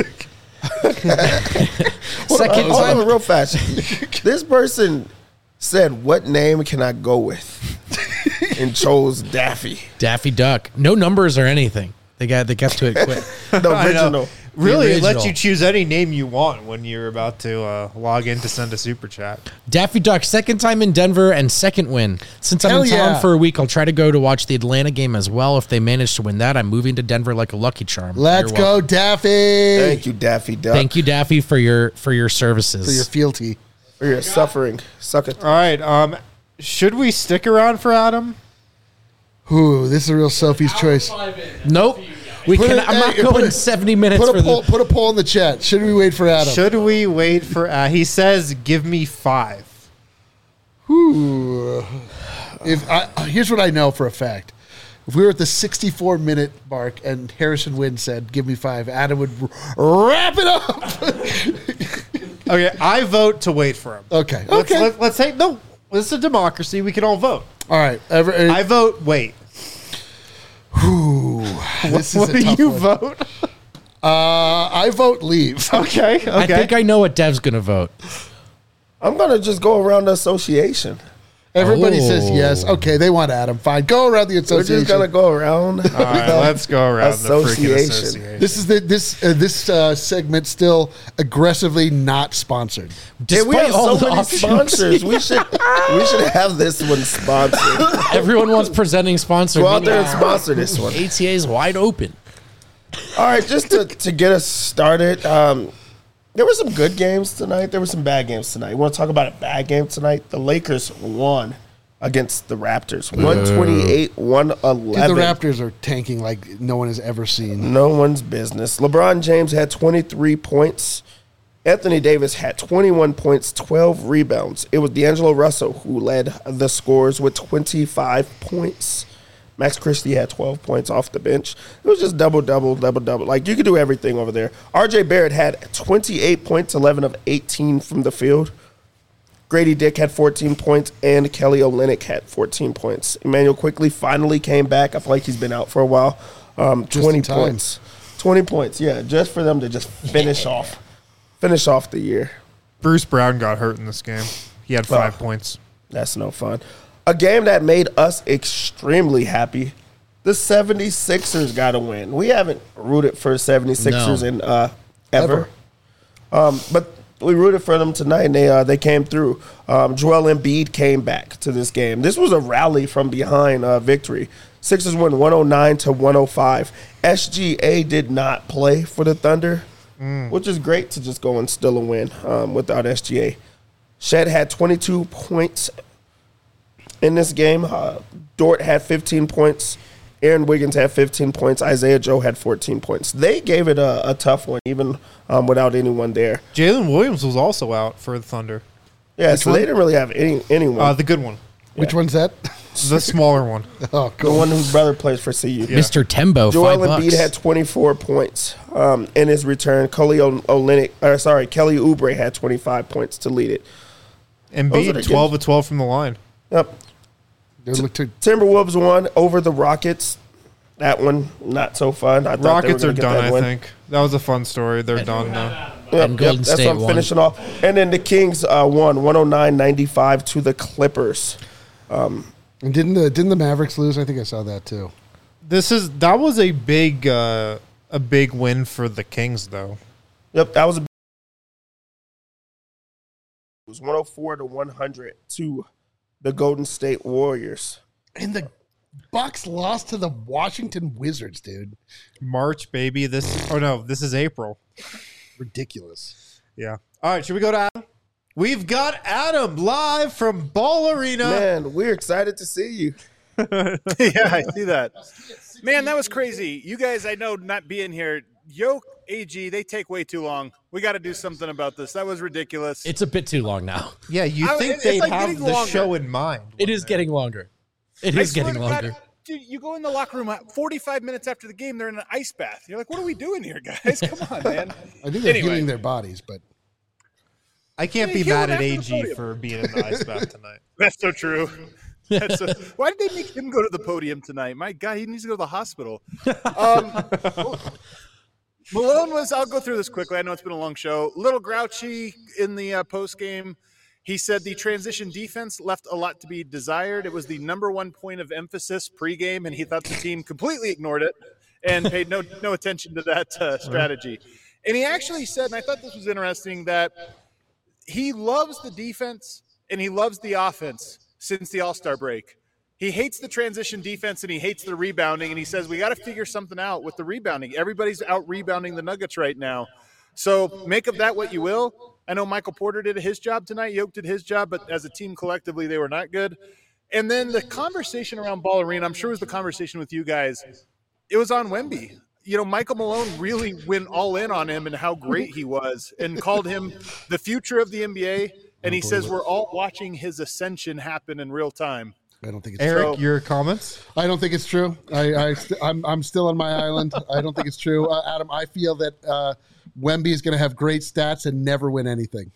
Second Hold on, time. real fast. This person said, "What name can I go with?" and chose Daffy, Daffy Duck. No numbers or anything. They got they got to it quick. the I know. original. Really, it lets original. you choose any name you want when you're about to uh, log in to send a super chat. Daffy Duck, second time in Denver and second win. Since I'm Hell in town yeah. for a week, I'll try to go to watch the Atlanta game as well. If they manage to win that, I'm moving to Denver like a lucky charm. Let's You're go, welcome. Daffy. Thank you, Daffy Duck, Thank you, Daffy, for your for your services. for your fealty. for your suffering. Suck it. All right, um, should we stick around for Adam? Ooh, this is a real Sophie's Hour choice. five in. nope. We Put can. it- I'm not hey, going put it- seventy minutes Put for a poll. the. Put a poll in the chat. Should we wait for Adam? Should we wait for? Uh, he says, "Give me five." Ooh. If I, here's what I know for a fact. If we were at the sixty-four minute mark and Harrison Wynn said, give me five, Adam would r- wrap it up. Okay, I vote to wait for him. Okay. Let's, Okay. let, let's say, no, this is a democracy. We can all vote. All right. Ever, I vote wait. Ooh, this What is a do tough you one. vote? Uh, I vote leave. Okay, okay. I think I know what Dev's going to vote. I'm gonna just go around the association. Everybody Oh. says yes. Okay, they want Adam. Fine. Go around the We're association. just gonna go around. all right, let's go around the freaking Association. association. This is the this uh, this uh, segment still aggressively not sponsored. Yeah, we Despite have all so the many options. sponsors. We should we should have this one sponsored. Everyone wants presenting sponsor. Go out there and sponsor this one. A T A is wide open. All right, just to, to get us started, um, there were some good games tonight. There were some bad games tonight. You want to talk about a bad game tonight? The Lakers won against the Raptors, one twenty-eight, one Dude, eleven. the Raptors are tanking like no one has ever seen. No one's business. LeBron James had twenty-three points. Anthony Davis had twenty-one points, twelve rebounds. It was D'Angelo Russell who led the scores with twenty-five points. Max Christie had twelve points off the bench. It was just double, double, double, double. Like, you could do everything over there. R J Barrett had twenty-eight points, eleven of eighteen from the field. Grady Dick had fourteen points, and Kelly Olynyk had fourteen points. Emmanuel Quickly finally came back. I feel like he's been out for a while. Um, twenty in time. points. twenty points, yeah, just for them to just finish off. Finish off the year. Bruce Brown got hurt in this game. He had five Oh. points. That's no fun. A game that made us extremely happy. The seventy-sixers got a win. We haven't rooted for seventy-sixers No. in uh, ever. Um, but we rooted for them tonight, and they uh, they came through. Um, Joel Embiid came back to this game. This was a rally from behind uh, victory. Sixers win one oh nine to one oh five. S G A did not play for the Thunder, which is great to just go and still a win um, without S G A. Shed had twenty-two points in this game. Uh, Dort had fifteen points. Aaron Wiggins had fifteen points. Isaiah Joe had fourteen points. They gave it a, a tough one, even um, without anyone there. Jalen Williams was also out for the Thunder. Yeah, Which so one? they didn't really have any anyone. Uh, the good one. Which one's that? The smaller one. Oh, the cool. one whose brother plays for C U. Mister Tembo, Joel five Embiid bucks. had twenty-four points um, in his return. Kelly o- Olynyk, or sorry, Kelly Oubre had twenty-five points to lead it. Those are the Embiid, games. twelve of twelve from the line. Yep. They look to- Timberwolves won over the Rockets. That one, not so fun. I thought Rockets they were are gonna get done, that I win. think. That was a fun story. They're done now. Yep, And Golden yep, that's State what I'm won. finishing off. And then the Kings uh, won one oh nine ninety-five to the Clippers. And didn't the didn't the Mavericks lose? I think I saw that too. This is that was a big uh, a big win for the Kings, though. Yep, that was a. It was one oh four to one hundred to the Golden State Warriors. And the Bucks lost to the Washington Wizards, dude. March, baby. This oh no, this is April. Ridiculous. Yeah. All right, should we go to Adam? We've got Adam live from Ball Arena. Man, we're excited to see you. Yeah, I see that. Man, that was crazy. You guys, I know, not being here, Yoke, A G, they take way too long. We got to do something about this. That was ridiculous. It's a bit too long now. Yeah, you I- think it's they'd like have getting the longer. show in mind? It is getting longer. It I is swear getting to God, longer. dude, you go in the locker room forty-five minutes after the game, they're in an ice bath. You're like, what are we doing here, guys? Come on, man. I think they're Anyway. healing their bodies, but I can't Yeah, be kill mad him at after the A G podium. for being in the ice bath tonight. That's so true. That's so, why did they make him go to the podium tonight? My God, he needs to go to the hospital. Um, Malone was, I'll go through this quickly. I know it's been a long show. Little grouchy in the uh, post game. He said the transition defense left a lot to be desired. It was the number one point of emphasis pregame, and he thought the team completely ignored it and paid no no attention to that uh, strategy. And he actually said, and I thought this was interesting, that he loves the defense and he loves the offense since the All-Star break. He hates the transition defense and he hates the rebounding, and he says we got to figure something out with the rebounding. Everybody's out rebounding the Nuggets right now. So make of that what you will. I know Michael Porter did his job tonight. Yoke did his job, but as a team collectively, they were not good. And then the conversation around Ball Arena, I'm sure it was the conversation with you guys. It was on Wemby. You know, Michael Malone really went all in on him and how great he was and called him the future of the N B A. And he says we're all watching his ascension happen in real time. I don't think it's Eric, true. So- your comments? I don't think it's true. I, I st- I'm I'm still on my island. I don't think it's true. Uh, Adam, I feel that uh, Wemby is going to have great stats and never win anything.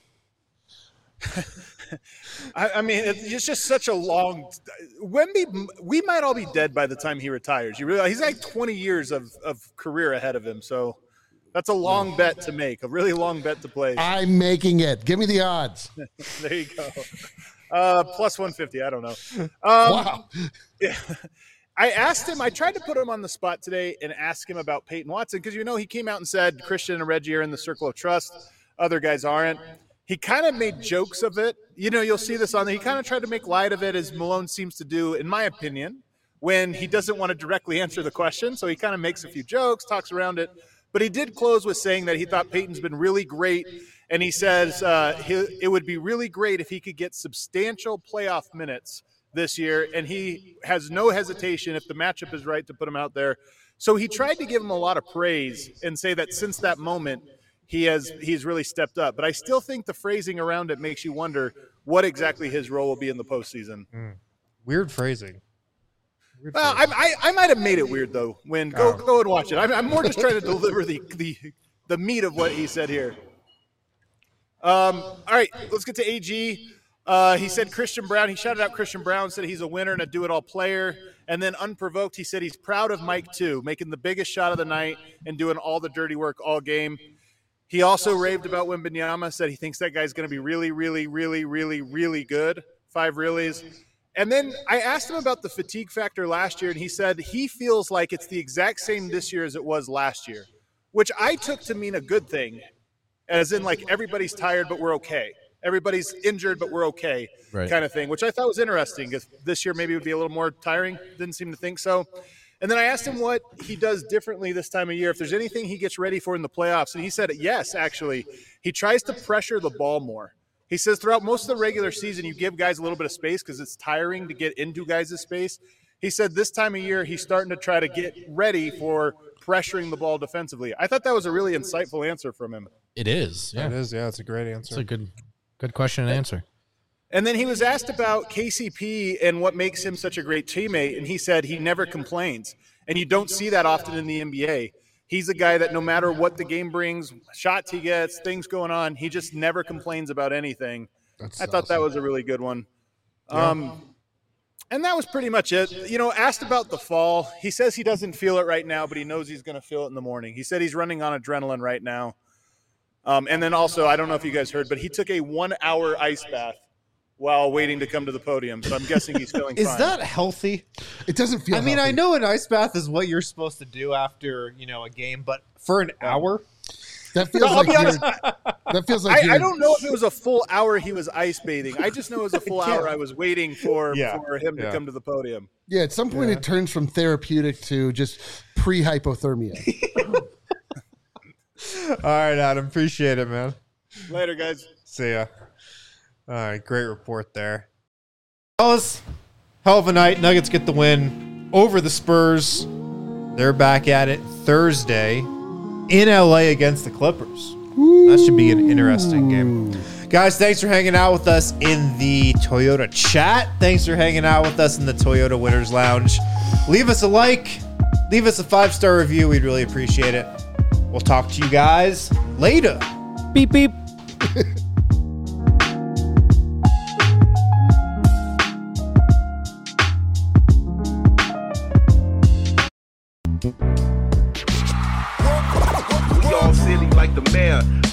I, I mean, it's just such a long. Wemby, we might all be dead by the time he retires. You realize he's like twenty years of, of career ahead of him. So that's a long bet to make, a really long bet to place. I'm making it. Give me the odds. There you go. Uh, plus one fifty. I don't know. Um, Wow. Yeah. I asked him, I tried to put him on the spot today and ask him about Peyton Watson because, you know, he came out and said Christian and Reggie are in the circle of trust. Other guys aren't. He kind of made jokes of it. You know, you'll see this on there. He kind of tried to make light of it, as Malone seems to do, in my opinion, when he doesn't want to directly answer the question. So he kind of makes a few jokes, talks around it. But he did close with saying that he thought Peyton's been really great. And he says uh, he, it would be really great if he could get substantial playoff minutes this year. And he has no hesitation, if the matchup is right, to put him out there. So he tried to give him a lot of praise and say that since that moment, he has he's really stepped up. But I still think the phrasing around it makes you wonder what exactly his role will be in the postseason. Mm. Weird phrasing. Weird Well, I, I, I might have made it weird, though. When Go, Oh. go and watch it. I'm, I'm more just trying to deliver the, the, the meat of what he said here. Um, all right, let's get to A G. Uh, he said Christian Brown. He shouted out Christian Brown, said he's a winner and a do-it-all player. And then unprovoked, he said he's proud of Mike, too, making the biggest shot of the night and doing all the dirty work all game. He also raved about Wembanyama, said he thinks that guy's going to be really, really, really, really, really good. Five reallys. And then I asked him about the fatigue factor last year, and he said he feels like it's the exact same this year as it was last year, which I took to mean a good thing, as in like everybody's tired, but we're okay. Everybody's injured, but we're okay, Right. kind of thing, which I thought was interesting. If this year maybe would be a little more tiring, didn't seem to think so. And then I asked him what he does differently this time of year, if there's anything he gets ready for in the playoffs. And he said, yes, actually. He tries to pressure the ball more. He says throughout most of the regular season, you give guys a little bit of space because it's tiring to get into guys' space. He said this time of year, he's starting to try to get ready for pressuring the ball defensively. I thought that was a really insightful answer from him. It is. Yeah. It is, yeah, it's a great answer. It's a good good question and answer. And then he was asked about K C P and what makes him such a great teammate, and he said he never complains. And you don't see that often in the N B A. He's a guy that no matter what the game brings, shots he gets, things going on, he just never complains about anything. That's I thought that awesome. was a really good one. Um, and that was pretty much it. You know, asked about the fall. He says he doesn't feel it right now, but he knows he's going to feel it in the morning. He said he's running on adrenaline right now. Um, and then also, I don't know if you guys heard, but he took a one-hour ice bath while waiting to come to the podium. So I'm guessing he's feeling Is fine. that healthy? It doesn't feel. I mean, I healthy. know an ice bath is what you're supposed to do after, you know, a game, but for an hour? that feels No, I'll like be you're, honest. that feels like I, you're, I don't know if it was a full hour he was ice bathing. I just know it was a full hour I was waiting for, Yeah. for him to Yeah. come to the podium. Yeah, at some point it turns from therapeutic to just pre-hypothermia. All right, Adam. Appreciate it, man. Later, guys. See ya. All right, great report there. Fellas, hell of a night. Nuggets get the win over the Spurs. They're back at it Thursday in L A against the Clippers. That should be an interesting game. Guys, thanks for hanging out with us in the Toyota chat. Thanks for hanging out with us in the Toyota Winners Lounge. Leave us a like. Leave us a five-star review. We'd really appreciate it. We'll talk to you guys later. Beep beep. We all silly like the mayor.